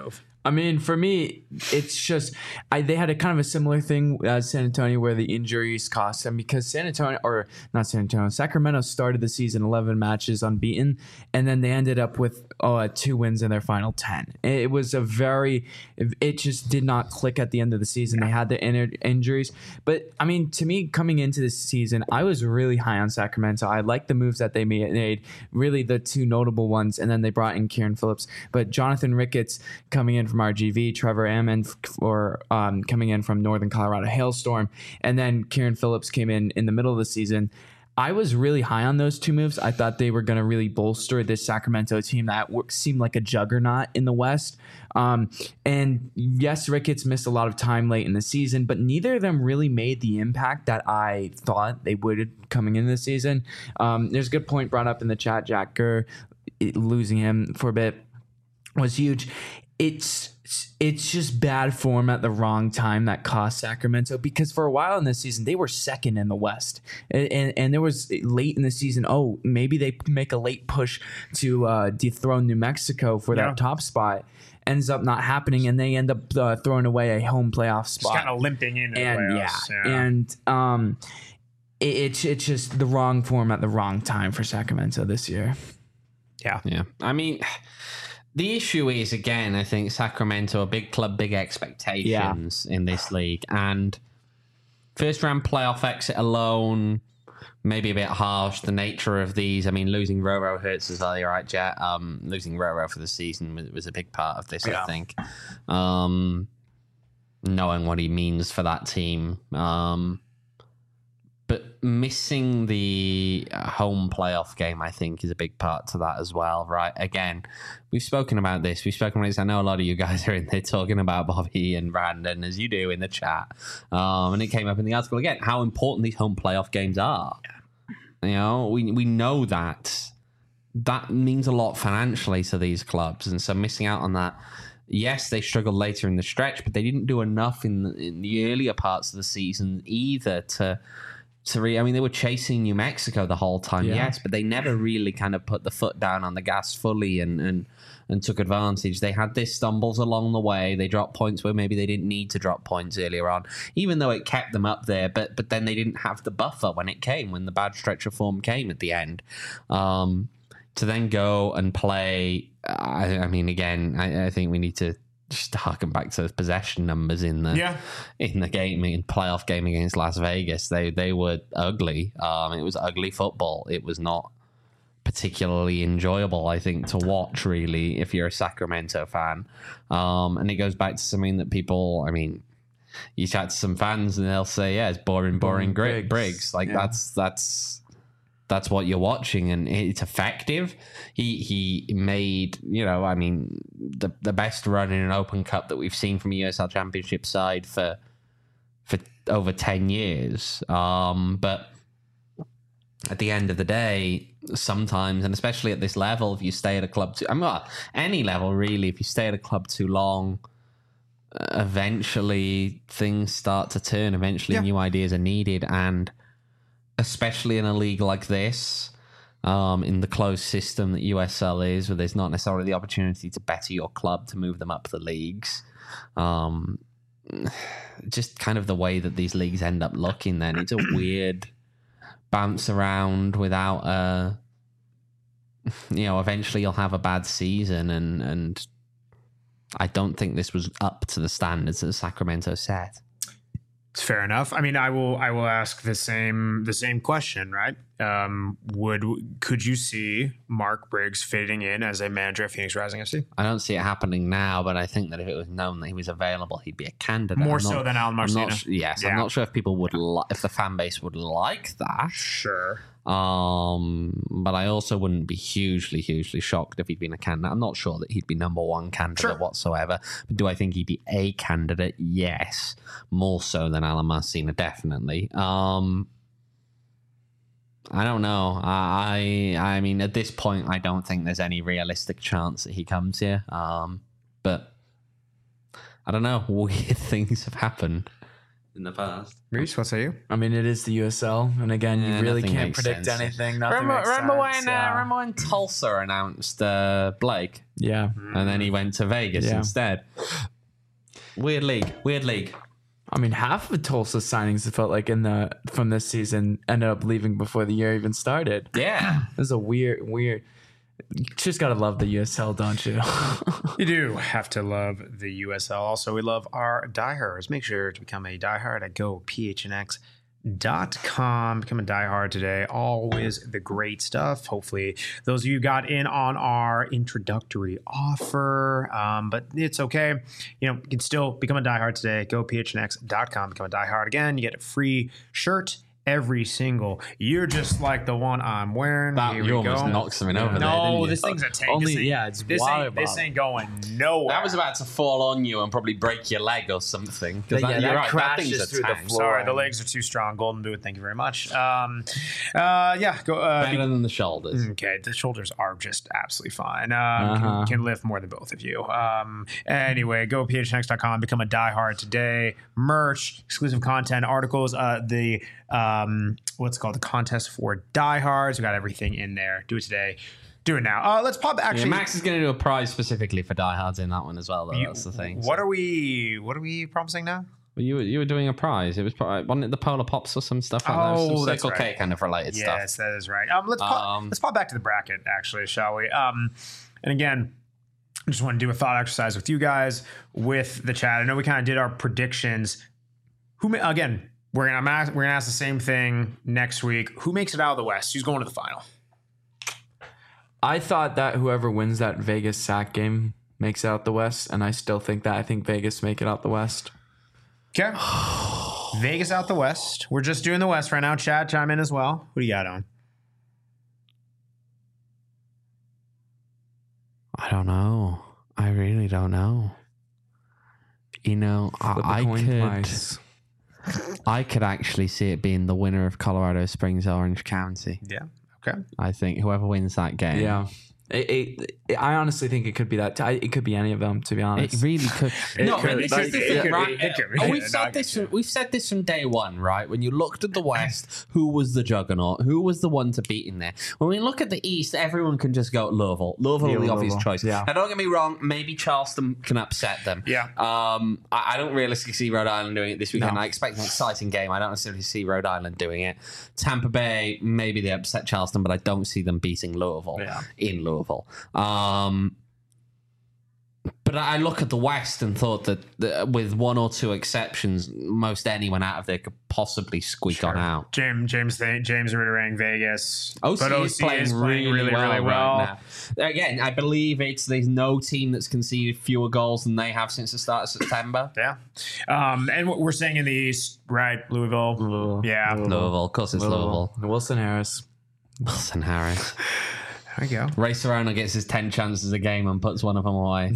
I mean, for me, it's just they had a kind of a similar thing as San Antonio where the injuries cost them because Sacramento started the season 11 matches unbeaten, and then they ended up with 2 wins in their final 10. It was it just did not click at the end of the season. They had the injuries. But, I mean, to me, coming into this season, I was really high on Sacramento. I liked the moves that they made, really the 2 notable ones, and then they brought in Kieran Phillips. But Jonathan Ricketts coming in from RGV, Trevor Ammon coming in from Northern Colorado Hailstorm, and then Kieran Phillips came in the middle of the season. I was really high on those 2 moves. I thought they were going to really bolster this Sacramento team that seemed like a juggernaut in the West. And yes, Ricketts missed a lot of time late in the season, but neither of them really made the impact that I thought they would coming into the season. There's a good point brought up in the chat. Jack Gurr, losing him for a bit was huge. It's just bad form at the wrong time that cost Sacramento, because for a while in this season they were second in the West, and there was late in the season, maybe they make a late push to dethrone New Mexico for that top spot. Ends up not happening, and they end up throwing away a home playoff spot. Just kind of limping in the playoffs. And it's just the wrong form at the wrong time for Sacramento this year. Yeah. I mean, the issue is, again, I think Sacramento, a big club, big expectations in this league. And first round playoff exit alone, maybe a bit harsh. The nature of these, I mean, losing Roro hurts as well. You're right, Jet. Losing Roro for the season was a big part of this, I think. Knowing what he means for that team. But missing the home playoff game, I think, is a big part to that as well, right? Again, we've spoken about this. I know a lot of you guys are in there talking about Bobby and Brandon, as you do in the chat. And it came up in the article again, how important these home playoff games are. You know, we know that means a lot financially to these clubs. And so missing out on that, yes, they struggled later in the stretch, but they didn't do enough in the earlier parts of the season either I mean, they were chasing New Mexico the whole time, yes, but they never really kind of put the foot down on the gas fully and took advantage. They had their stumbles along the way. They dropped points where maybe they didn't need to drop points earlier on, even though it kept them up there. But then they didn't have the buffer when the bad stretch of form came at the end. To then go and play, I mean, again, I think we need to just harken back to the possession numbers in the game, in playoff game against Las Vegas. They were ugly. It was ugly football. It was not particularly enjoyable, I think, to watch, really, if you're a Sacramento fan. And it goes back to something that people, I mean, you chat to some fans and they'll say, it's boring Briggs. Like, that's what you're watching, and it's effective. He made, I mean, the best run in an Open Cup that we've seen from a USL Championship side for over 10 years. But at the end of the day, sometimes, and especially at this level, if you stay at a club any level really, if you stay at a club too long, eventually things start to turn. Eventually new ideas are needed, and especially in a league like this, in the closed system that USL is, where there's not necessarily the opportunity to better your club, to move them up the leagues. Just kind of the way that these leagues end up looking, then it's a weird bounce around without eventually you'll have a bad season, and I don't think this was up to the standards that Sacramento set. It's fair enough. I mean, I will ask the same question, right? Could you see Mark Briggs fitting in as a manager at Phoenix Rising FC? I don't see it happening now, but I think that if it was known that he was available, he'd be a candidate. More so than Alan Marcina. I'm not sure if people would if the fan base would like that. Sure. But I also wouldn't be hugely shocked if he'd been a candidate. I'm not sure that he'd be number one candidate whatsoever. But do I think he'd be a candidate? Yes. More so than Alan Marcina, definitely. I don't know. I mean, at this point, I don't think there's any realistic chance that he comes here. But I don't know. Weird things have happened in the past. Reese, what say you? I mean, it is the USL, and again, you really nothing can't makes predict sense. anything. Nothing Remember makes sense. remember when Tulsa announced Blake, Yeah. and then he went to Vegas Yeah. instead? Weird league. I mean, half of Tulsa signings it felt like from this season ended up leaving before the year even started. Yeah. This is a weird. You just gotta love the USL, don't you? You do have to love the USL. Also, we love our diehards. Make sure to become a diehard at gophnx.com. Become a diehard today. Always the great stuff. Hopefully, those of you got in on our introductory offer, but it's okay. You can still become a diehard today. Gophnx.com. Become a diehard again. You get a free shirt every single. You're just like the one I'm wearing. Here we You almost go. knocked something over there, No, didn't you? this thing's a tank. Only- This ain't- yeah, it's this water ain't, this bottle. ain't going nowhere. That was about to fall on you and probably break your leg or something. 'Cause Yeah, you're that right, crashes thing's a through the tank. floor. Sorry, the legs are too strong. Golden boot. Thank you very much. Yeah, go. Better than the shoulders. Okay, the shoulders are just absolutely fine. Can lift more than both of you. Anyway, go phnx.com. Become a diehard today. Merch, exclusive content, articles. What's it called? The contest for diehards. We got everything in there. Do it today. Do it now. Let's pop. Yeah, Actually, Max is going to do a prize specifically for diehards in that one as well, though. That's the thing. What are we promising now? Well, you were doing a prize. It was wasn't it the Polar Pops or some stuff like that? Oh, Some that's Circle right. K kind of related stuff. Yes, that is right. Let's pop back to the bracket, actually, shall we? And again, I just want to do a thought exercise with you guys, with the chat. I know we kind of did our predictions. Again, we're gonna ask the same thing next week. Who makes it out of the West? Who's going to the final? I thought that whoever wins that Vegas sack game makes it out the West, and I still think that. I think Vegas make it out the West. Okay. Vegas out the West. We're just doing the West right now. Chad, chime in as well. Who do you got on? I don't know. I really don't know. I could actually see it being the winner of Colorado Springs Orange County. Yeah. Okay. I think whoever wins that game. Yeah. I honestly think it could be that. It could be any of them, to be honest. It really could. No, could. but this is the It thing, could right? be. It could be. We've No, I said get this. you. We've said this from day one, right? When you looked at the West, who was the juggernaut? Who was the one to beat in there? When we look at the East, everyone can just go Louisville. Louisville are the obvious choice. Yeah. Now, don't get me wrong. Maybe Charleston can upset them. Yeah. I don't realistically see Rhode Island doing it this weekend. No. I expect an exciting game. I don't necessarily see Rhode Island doing it. Tampa Bay, maybe they upset Charleston, but I don't see them beating Louisville in Louisville. But I look at the West and thought that with one or two exceptions, most anyone out of there could possibly squeak on out. James Ritterang, Vegas. OC But is playing really well well. right now. Again, I believe there's no team that's conceded fewer goals than they have since the start of September. Yeah. And what we're saying in the East, right? Louisville. Yeah. Louisville, of course it's Louisville. Wilson Harris. Wilson Harris. There you go. Ray Serrano gets his 10 chances a game and puts one of them away.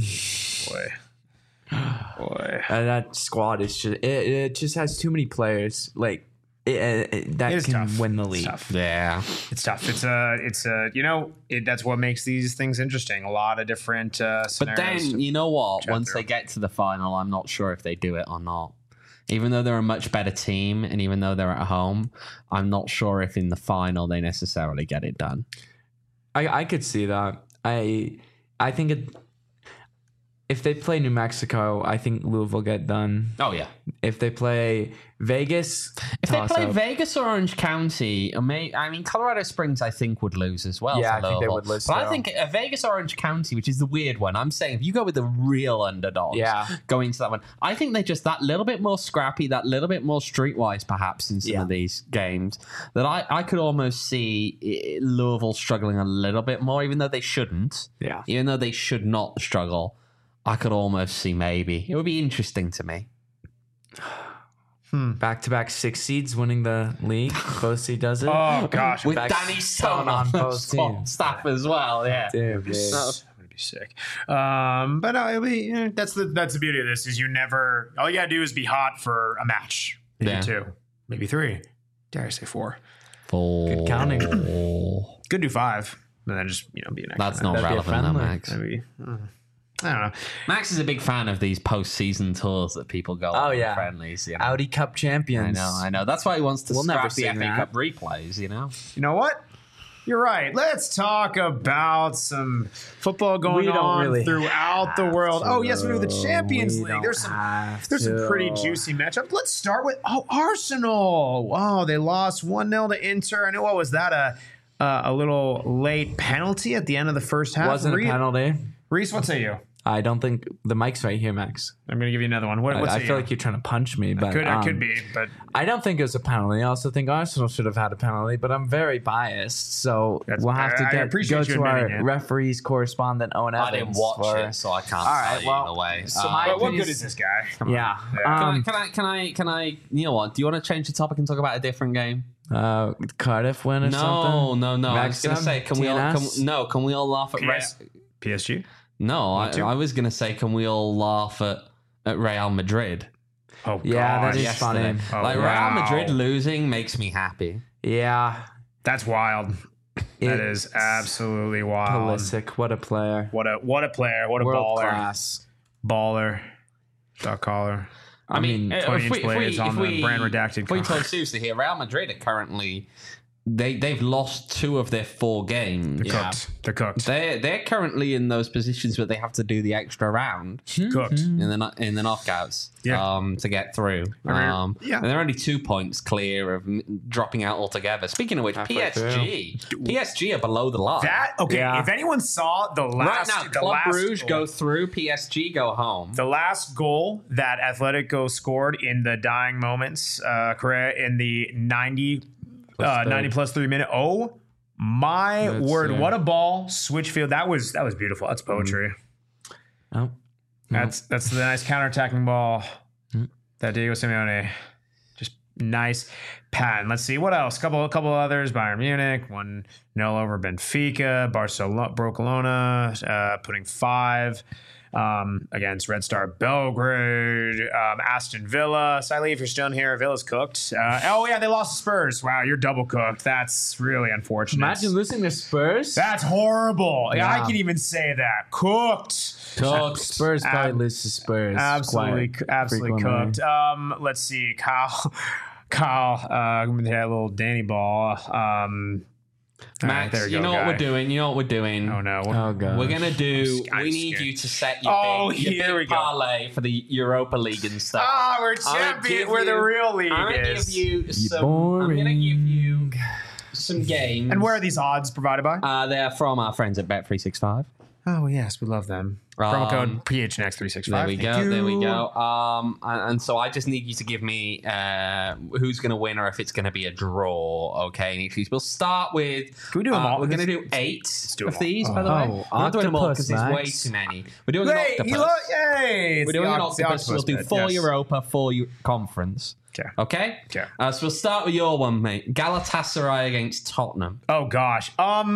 Boy. That squad is just it just has too many players that is can tough. win the It's league. tough. Yeah. It's tough. That's what makes these things interesting. A lot of different scenarios. But then, you know what? chat Once through. they get to the final, I'm not sure if they do it or not. Even though they're a much better team and even though they're at home, I'm not sure if in the final they necessarily get it done. I could see that. I think if they play New Mexico, I think Louisville get done. Oh, yeah. If they play Vegas, If they play toss-up. Vegas or Orange County, Colorado Springs, I think, would lose as well. Yeah, to I think they Louisville. would lose, But I too. think Vegas or Orange County, which is the weird one, I'm saying if you go with the real underdogs going into that one, I think they're just that little bit more scrappy, that little bit more streetwise, perhaps, in some of these games, that I could almost see Louisville struggling a little bit more, even though they shouldn't. Yeah. Even though they should not struggle, I could almost see maybe. It would be interesting to me. Back-to-back 6 seeds winning the league. Both does it. Oh gosh. With Back Danny Stone on on both both teams. staff as well, yeah. Dude, I'm gonna be sick. But no, it'll be, that's the beauty of this is all you gotta do is be hot for a match. Maybe 2, maybe 3. Dare I say 4? Good counting. Could do 5. And then just be an extra. That's not That'd be a relevant, though, friendly. Max. Maybe. I don't know. Max is a big fan of these post-season tours that people go on yeah. friendlies. You know? Audi Cup champions. I know. That's why he wants to We'll never scrap the sing FA that. Cup replays, you know? You know what? You're right. Let's talk about some football going We don't on really throughout the world. Oh, yes, we do. The Champions We League. don't There's some have pretty to. juicy matchups. Let's start with Arsenal. Wow, they lost 1-0 to Inter. I know, what was that? A little late penalty at the end of the first half. Wasn't a penalty. Reese, what say you? I don't think the mic's right here, Max. I'm going to give you another one. What I say feel you? like you're trying to punch me, but It could be, but I don't think it was a penalty. I also think Arsenal should have had a penalty, but I'm very biased, so we'll have to I appreciate go you to our admitting it. referees correspondent Owen Evans. I didn't watch it, so I can't right, say well, either way. so my but what opinion good is this guy? Come on. Yeah. Can I? You know what? Do you want to change the topic and talk about a different game? Cardiff win or something? No. I was gonna say, can we all laugh at PSG? No, too. I was gonna say, can we all laugh at Real Madrid? Oh, Yeah, God. that is Yesterday. funny. Oh, Like wow. Real Madrid losing makes me happy. Yeah. That's wild. That is It's absolutely wild. Pulisic, what a player. What a player. What a World baller. class. Baller. Dot collar. I mean, 20-inch blades on the brand redacted If we car. talk seriously here, Real Madrid are currently they've lost 2 of their 4 games. They're cooked. They're currently in those positions where they have to do the extra round Cooked. in the knockouts to get through. yeah. And they're only 2 points clear of dropping out altogether. Speaking of which, PSG are below the line. If anyone saw the last right now, Club Brugge go through, PSG go home. the last goal that Atletico scored in the dying moments, Correa, in the 90 plus 3 minute. Oh my word! What a ball! Switchfield. That was beautiful. That's poetry. Oh. That's the nice counterattacking ball that Diego Simeone just nice pat. Let's see what else. Couple others. Bayern Munich 1-0 over Benfica. Barcelona putting 5 against Red Star Belgrade. Aston Villa. Siley, if you're still in here, Villa's cooked. They lost to Spurs. Wow, you're double cooked. That's really unfortunate. Imagine losing to Spurs. That's horrible. Yeah, Yeah. I can even say that. Cooked. Spurs probably lose to Spurs. Absolutely frequently. cooked. Let's see, Kyle, we had a little Danny ball. Max, there we you go, know what guy. we're doing. Oh no! Oh, God. We're gonna do. I'm We need scared. you to set Oh, your here we big go. parlay for the Europa League and stuff. We're champion. We're the real league. I'm gonna is. give you some. I'm gonna give you some games. And where are these odds provided by? They're from our friends at Bet365. Oh yes, we love them. Promo code PHNX365. There we go. And so I just need you to give me who's going to win or if it's going to be a draw. Okay, and we'll start with. Can we do them all? We're going to do 8 do of them all. these, by the way. We're not doing them all because octopus, there's way Max. too many. We're doing Yay! an octopus. Yay! We're doing an octopus. We'll do 4 Europa, 4 conference. Okay. Okay. So we'll start with your one, mate. Galatasaray against Tottenham. Oh gosh.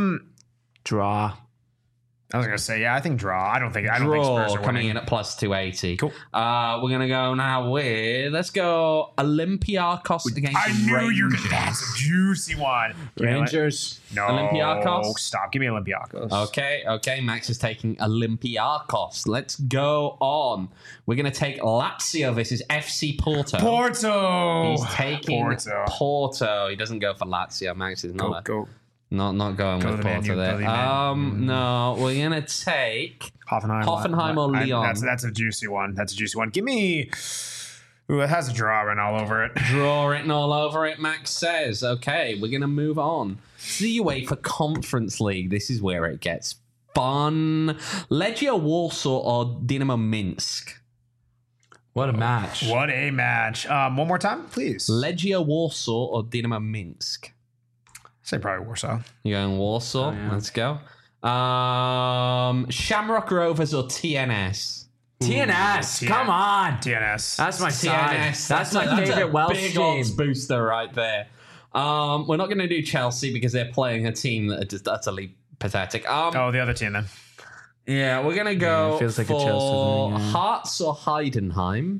Draw. I was gonna say I think draw. I don't think Spurs Draw are coming winning. in at plus 280. Cool. We're gonna go now with Olympiacos against I knew Rangers. you were gonna. That's a juicy one. Rangers. No. Olympiacos? Stop. Give me Olympiacos. Okay. Max is taking Olympiacos. Let's go on. We're gonna take Lazio versus FC Porto. Porto. He's taking Porto. Porto. He doesn't go for Lazio. Max is not Go. not going Go with the Man Porto U, there. go the Man. No, we're gonna take Hoffenheim or Lyon. That's a juicy one. Give me. Ooh, it has a draw written all over it. Draw written all over it, Max says. Okay, we're going to move on. The UEFA Conference League. This is where it gets fun. Legia Warsaw or Dynamo Minsk? What a match. What a match. One more time, please. Legia Warsaw or Dynamo Minsk? Say probably Warsaw. You're going Warsaw? yeah. Let's go. Shamrock Rovers or TNS? TNS. Come on. TNS. That's my side. TNS. That's my a favorite Welsh big team. odds booster right there. We're not going to do Chelsea because they're playing a team that are just utterly pathetic. Oh, the other team then. Yeah, we're gonna go it feels like a for Chelsea thing, yeah. Hearts or Heidenheim.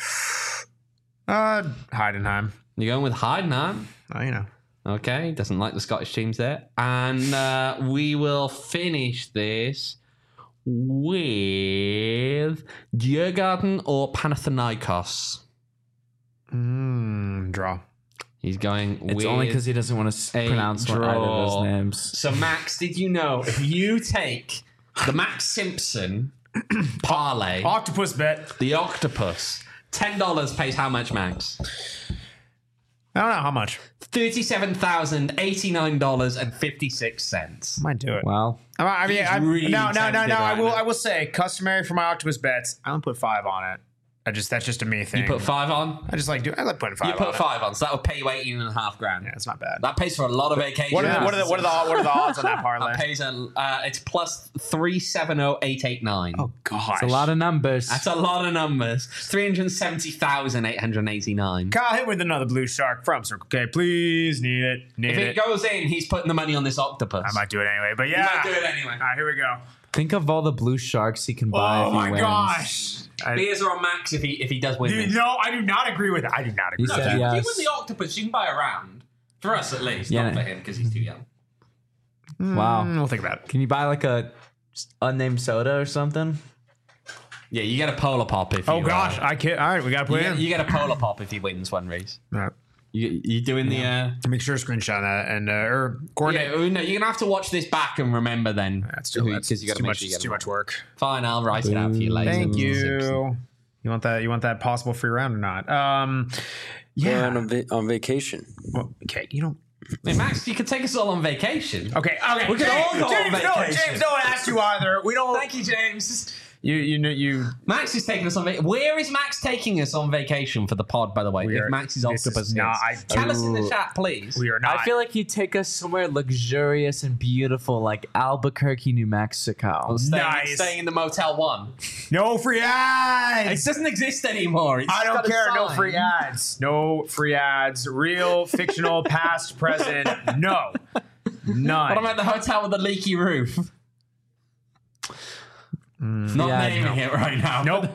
Heidenheim. You're going with Heidenheim. Oh, you know. Okay, doesn't like the Scottish teams there. And we will finish this with Djurgården or Panathinaikos. Draw. He's going It's with only because he doesn't want to pronounce one either of those draw. names. So, Max, did you know if you take the Max Simpson parlay, Octopus bet. the octopus, $10 pays how much, Max? I don't know how much. $37,089.56. Might do it. Well, I mean, He's I really tempted right now. I will say, customary for my octopus bets. I don't put 5 on it. That's just a me thing. You put 5 on? I like putting 5. You put on 5 on, so that would pay you 18.5 grand. Yeah, it's not bad. That pays for a lot of vacations. What are the odds on that parlay? That pays it's plus 370,889. Oh gosh, it's a lot of numbers. That's a lot of numbers. 370,889. Kyle, hit with another blue shark from Circle K, please. Need it. If it goes in, he's putting the money on this octopus. I might do it anyway, but yeah, He might do it anyway. All right, here we go. Think of all the blue sharks he can buy if Oh he my wins. gosh. Beers are on Max if he does win this. No, I do not agree with that. I do not agree He with said that. yes. You win the octopus, you can buy a round. For us, at least. Yeah. Not for him, because he's too young. Wow. We'll think about it. Can you buy like a unnamed soda or something? Yeah, you get a polar pop if you... Oh gosh, I can't. All right, we got to put it in. You get a polar pop if he wins one race. All right. You doing the... Make sure to screenshot that and or coordinate. Yeah, no, you're going to have to watch this back and remember then. That's too much. Because you got to make much. sure you It's get too them much work. Fine, I'll write it out for you later. Thank Simpson. you. You want that possible free round or not? Yeah. We're on vacation. Well, okay, you don't. Hey, Max, you could take us all on vacation. Okay. We could all go on James, no, vacation. James, don't ask you either. We don't. Thank you, James. You. Max is taking us on vacation. Where is Max taking us on vacation for the pod, by the way? We are- If Max's this octopus is not- hits. Tell us in the chat, please. We are not. I feel like he'd take us somewhere luxurious and beautiful, like Albuquerque, New Mexico. Nice. Staying in the Motel 1. no free It ads. doesn't exist anymore. It's I don't got a care. No sign. free ads. No free ads. Real, fictional, past, present. No. None. What about the hotel with the leaky roof? Not Yeah, naming it right now. Nope.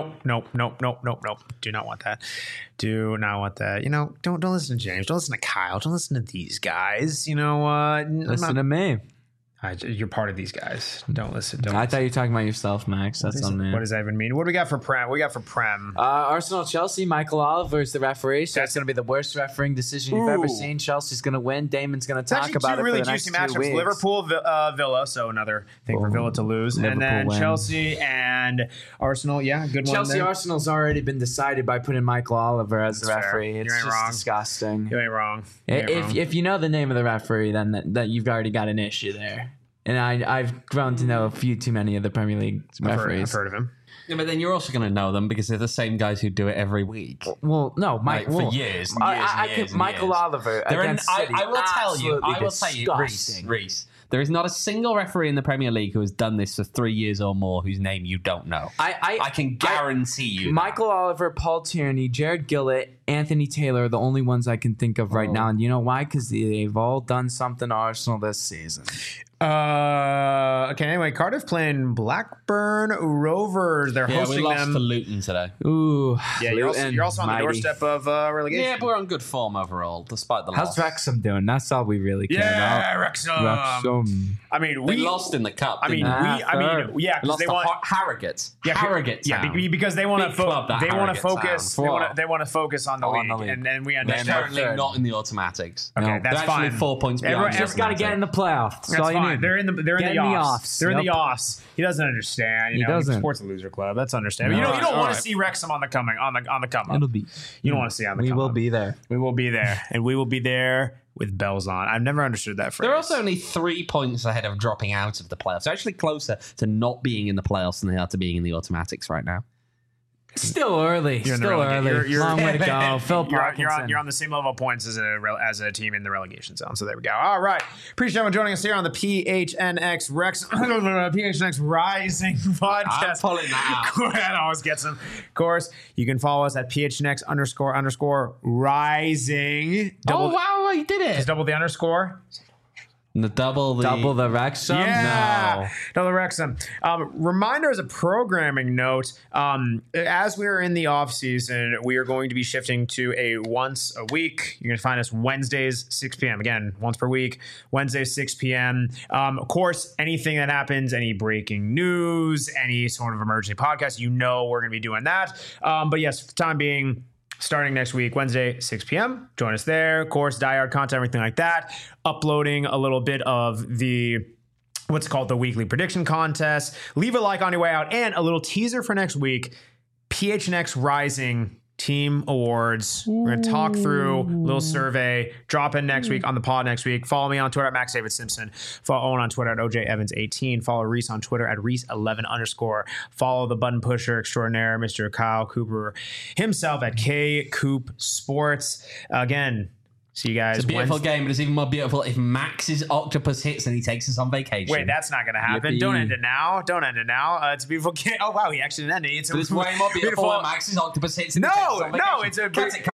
Do not want that. Do not want that. Don't listen to James. Don't listen to Kyle. Don't listen to these guys. Listen to me. You're part of these guys. Don't listen. Don't. I thought you were talking about yourself, Max. That's on me. What does that even mean? What do we got for Prem? What do we got for Prem? Arsenal, Chelsea, Michael Oliver is the referee, so it's going to be the worst refereeing decision you've ever Ooh. seen. Chelsea's going to win. Damon's going to It's talk actually about two it really for the next juicy 2 matchups. weeks. Liverpool, Villa, so another thing for Villa to lose, and Liverpool then win. Chelsea and Arsenal. Yeah, good one. Chelsea there. Arsenal's already been decided by putting Michael Oliver as the That's fair. referee. You It's ain't just wrong. disgusting. You ain't wrong. You ain't wrong. If you know the name of the referee, then that you've already got an issue there. And I've grown to know a few too many of the Premier League I've referees. heard of him. Yeah, but then you're also going to know them because they're the same guys who do it every week. Well, no, Mike. Like, for well, years and I- years and I years could- and Michael years. Oliver They're in- against City. I will tell you, Disgusting. Reese, there is not a single referee in the Premier League who has done this for 3 years or more whose name you don't know. I can guarantee you. Michael Oliver, Paul Tierney, Jared Gillett, Anthony Taylor are the only ones I can think of right now. And you know why? Because they've all done something to Arsenal this season. Okay, anyway, Cardiff playing Blackburn Rovers. They're Yeah, we hosting lost them. to Luton today. Ooh. Yeah, you're also on the mighty. doorstep of relegation. Yeah, but we're on good form overall, despite the loss. How's Wrexham doing? That's all we really care Yeah, about. Wrexham. Wrexham. I mean, They we lost in the cup. I mean, didn't they? third. yeah, They because lost they to want. Harrogate. Yeah, Harrogate. yeah, Town. because they want Big club, that they want to Harrogate focus. Town. They want to focus on the On the league, league. and then we They're understand. currently third. not in the automatics. Okay, No. that's They're fine. actually 4 points Everyone- beyond. everyone- Just got to get in the playoffs. That's, That's all you fine. need. They're in the Get in the offs. They're in the Yep. offs. He doesn't understand. He doesn't. Sports a loser club. That's understandable. No. You don't All want right. to see Wrexham on the come up. It'll be. You don't want to see on the We come will up. be there. We will be there, and we will be there with bells on. I've never understood that phrase. They're also only 3 points ahead of dropping out of the playoffs. They're actually closer to not being in the playoffs than they are to being in the automatics right now. Still early. You're in the Still relegation. early. You're- Long way to go. Phil You're Parkinson. on the same level of points as a team in the relegation zone. So there we go. All right. Appreciate everyone joining us here on the PHNX PHNX Rising podcast. I'm pulling that out. That always gets them. Of course, you can follow us at PHNX__Rising. Oh, wow, you did it. Just double the underscore. Double the Wrexham? Yeah, double Wrexham. Reminder as a programming note, as we are in the off season, we are going to be shifting to a once a week. You're going to find us Wednesdays, 6 p.m. Again, once per week, Wednesdays, 6 p.m. Of course, anything that happens, any breaking news, any sort of emergency podcast, we're going to be doing that. But yes, for the time being, starting next week, Wednesday, 6 p.m. Join us there. Of course, diehard content, everything like that. Uploading a little bit of the what's called the weekly prediction contest. Leave a like on your way out. And a little teaser for next week, PHNX Rising Team Awards. We're going to talk through a little survey, drop in next week on the pod next week. Follow me on Twitter at MaxDavidSimpson. Follow Owen on Twitter at OJEvans18. Follow Reese on Twitter at Reese11_. Follow the button pusher extraordinaire, Mr. Kyle Cooper himself at KCoop Sports. Again, see you guys. It's a beautiful game, but it's even more beautiful if Max's octopus hits and he takes us on vacation. Wait, that's not going to happen. Yippee. Don't end it now. It's a beautiful game. Oh, wow, he actually didn't end it. But it's way more beautiful when Max's octopus hits and he takes us on vacation. It's a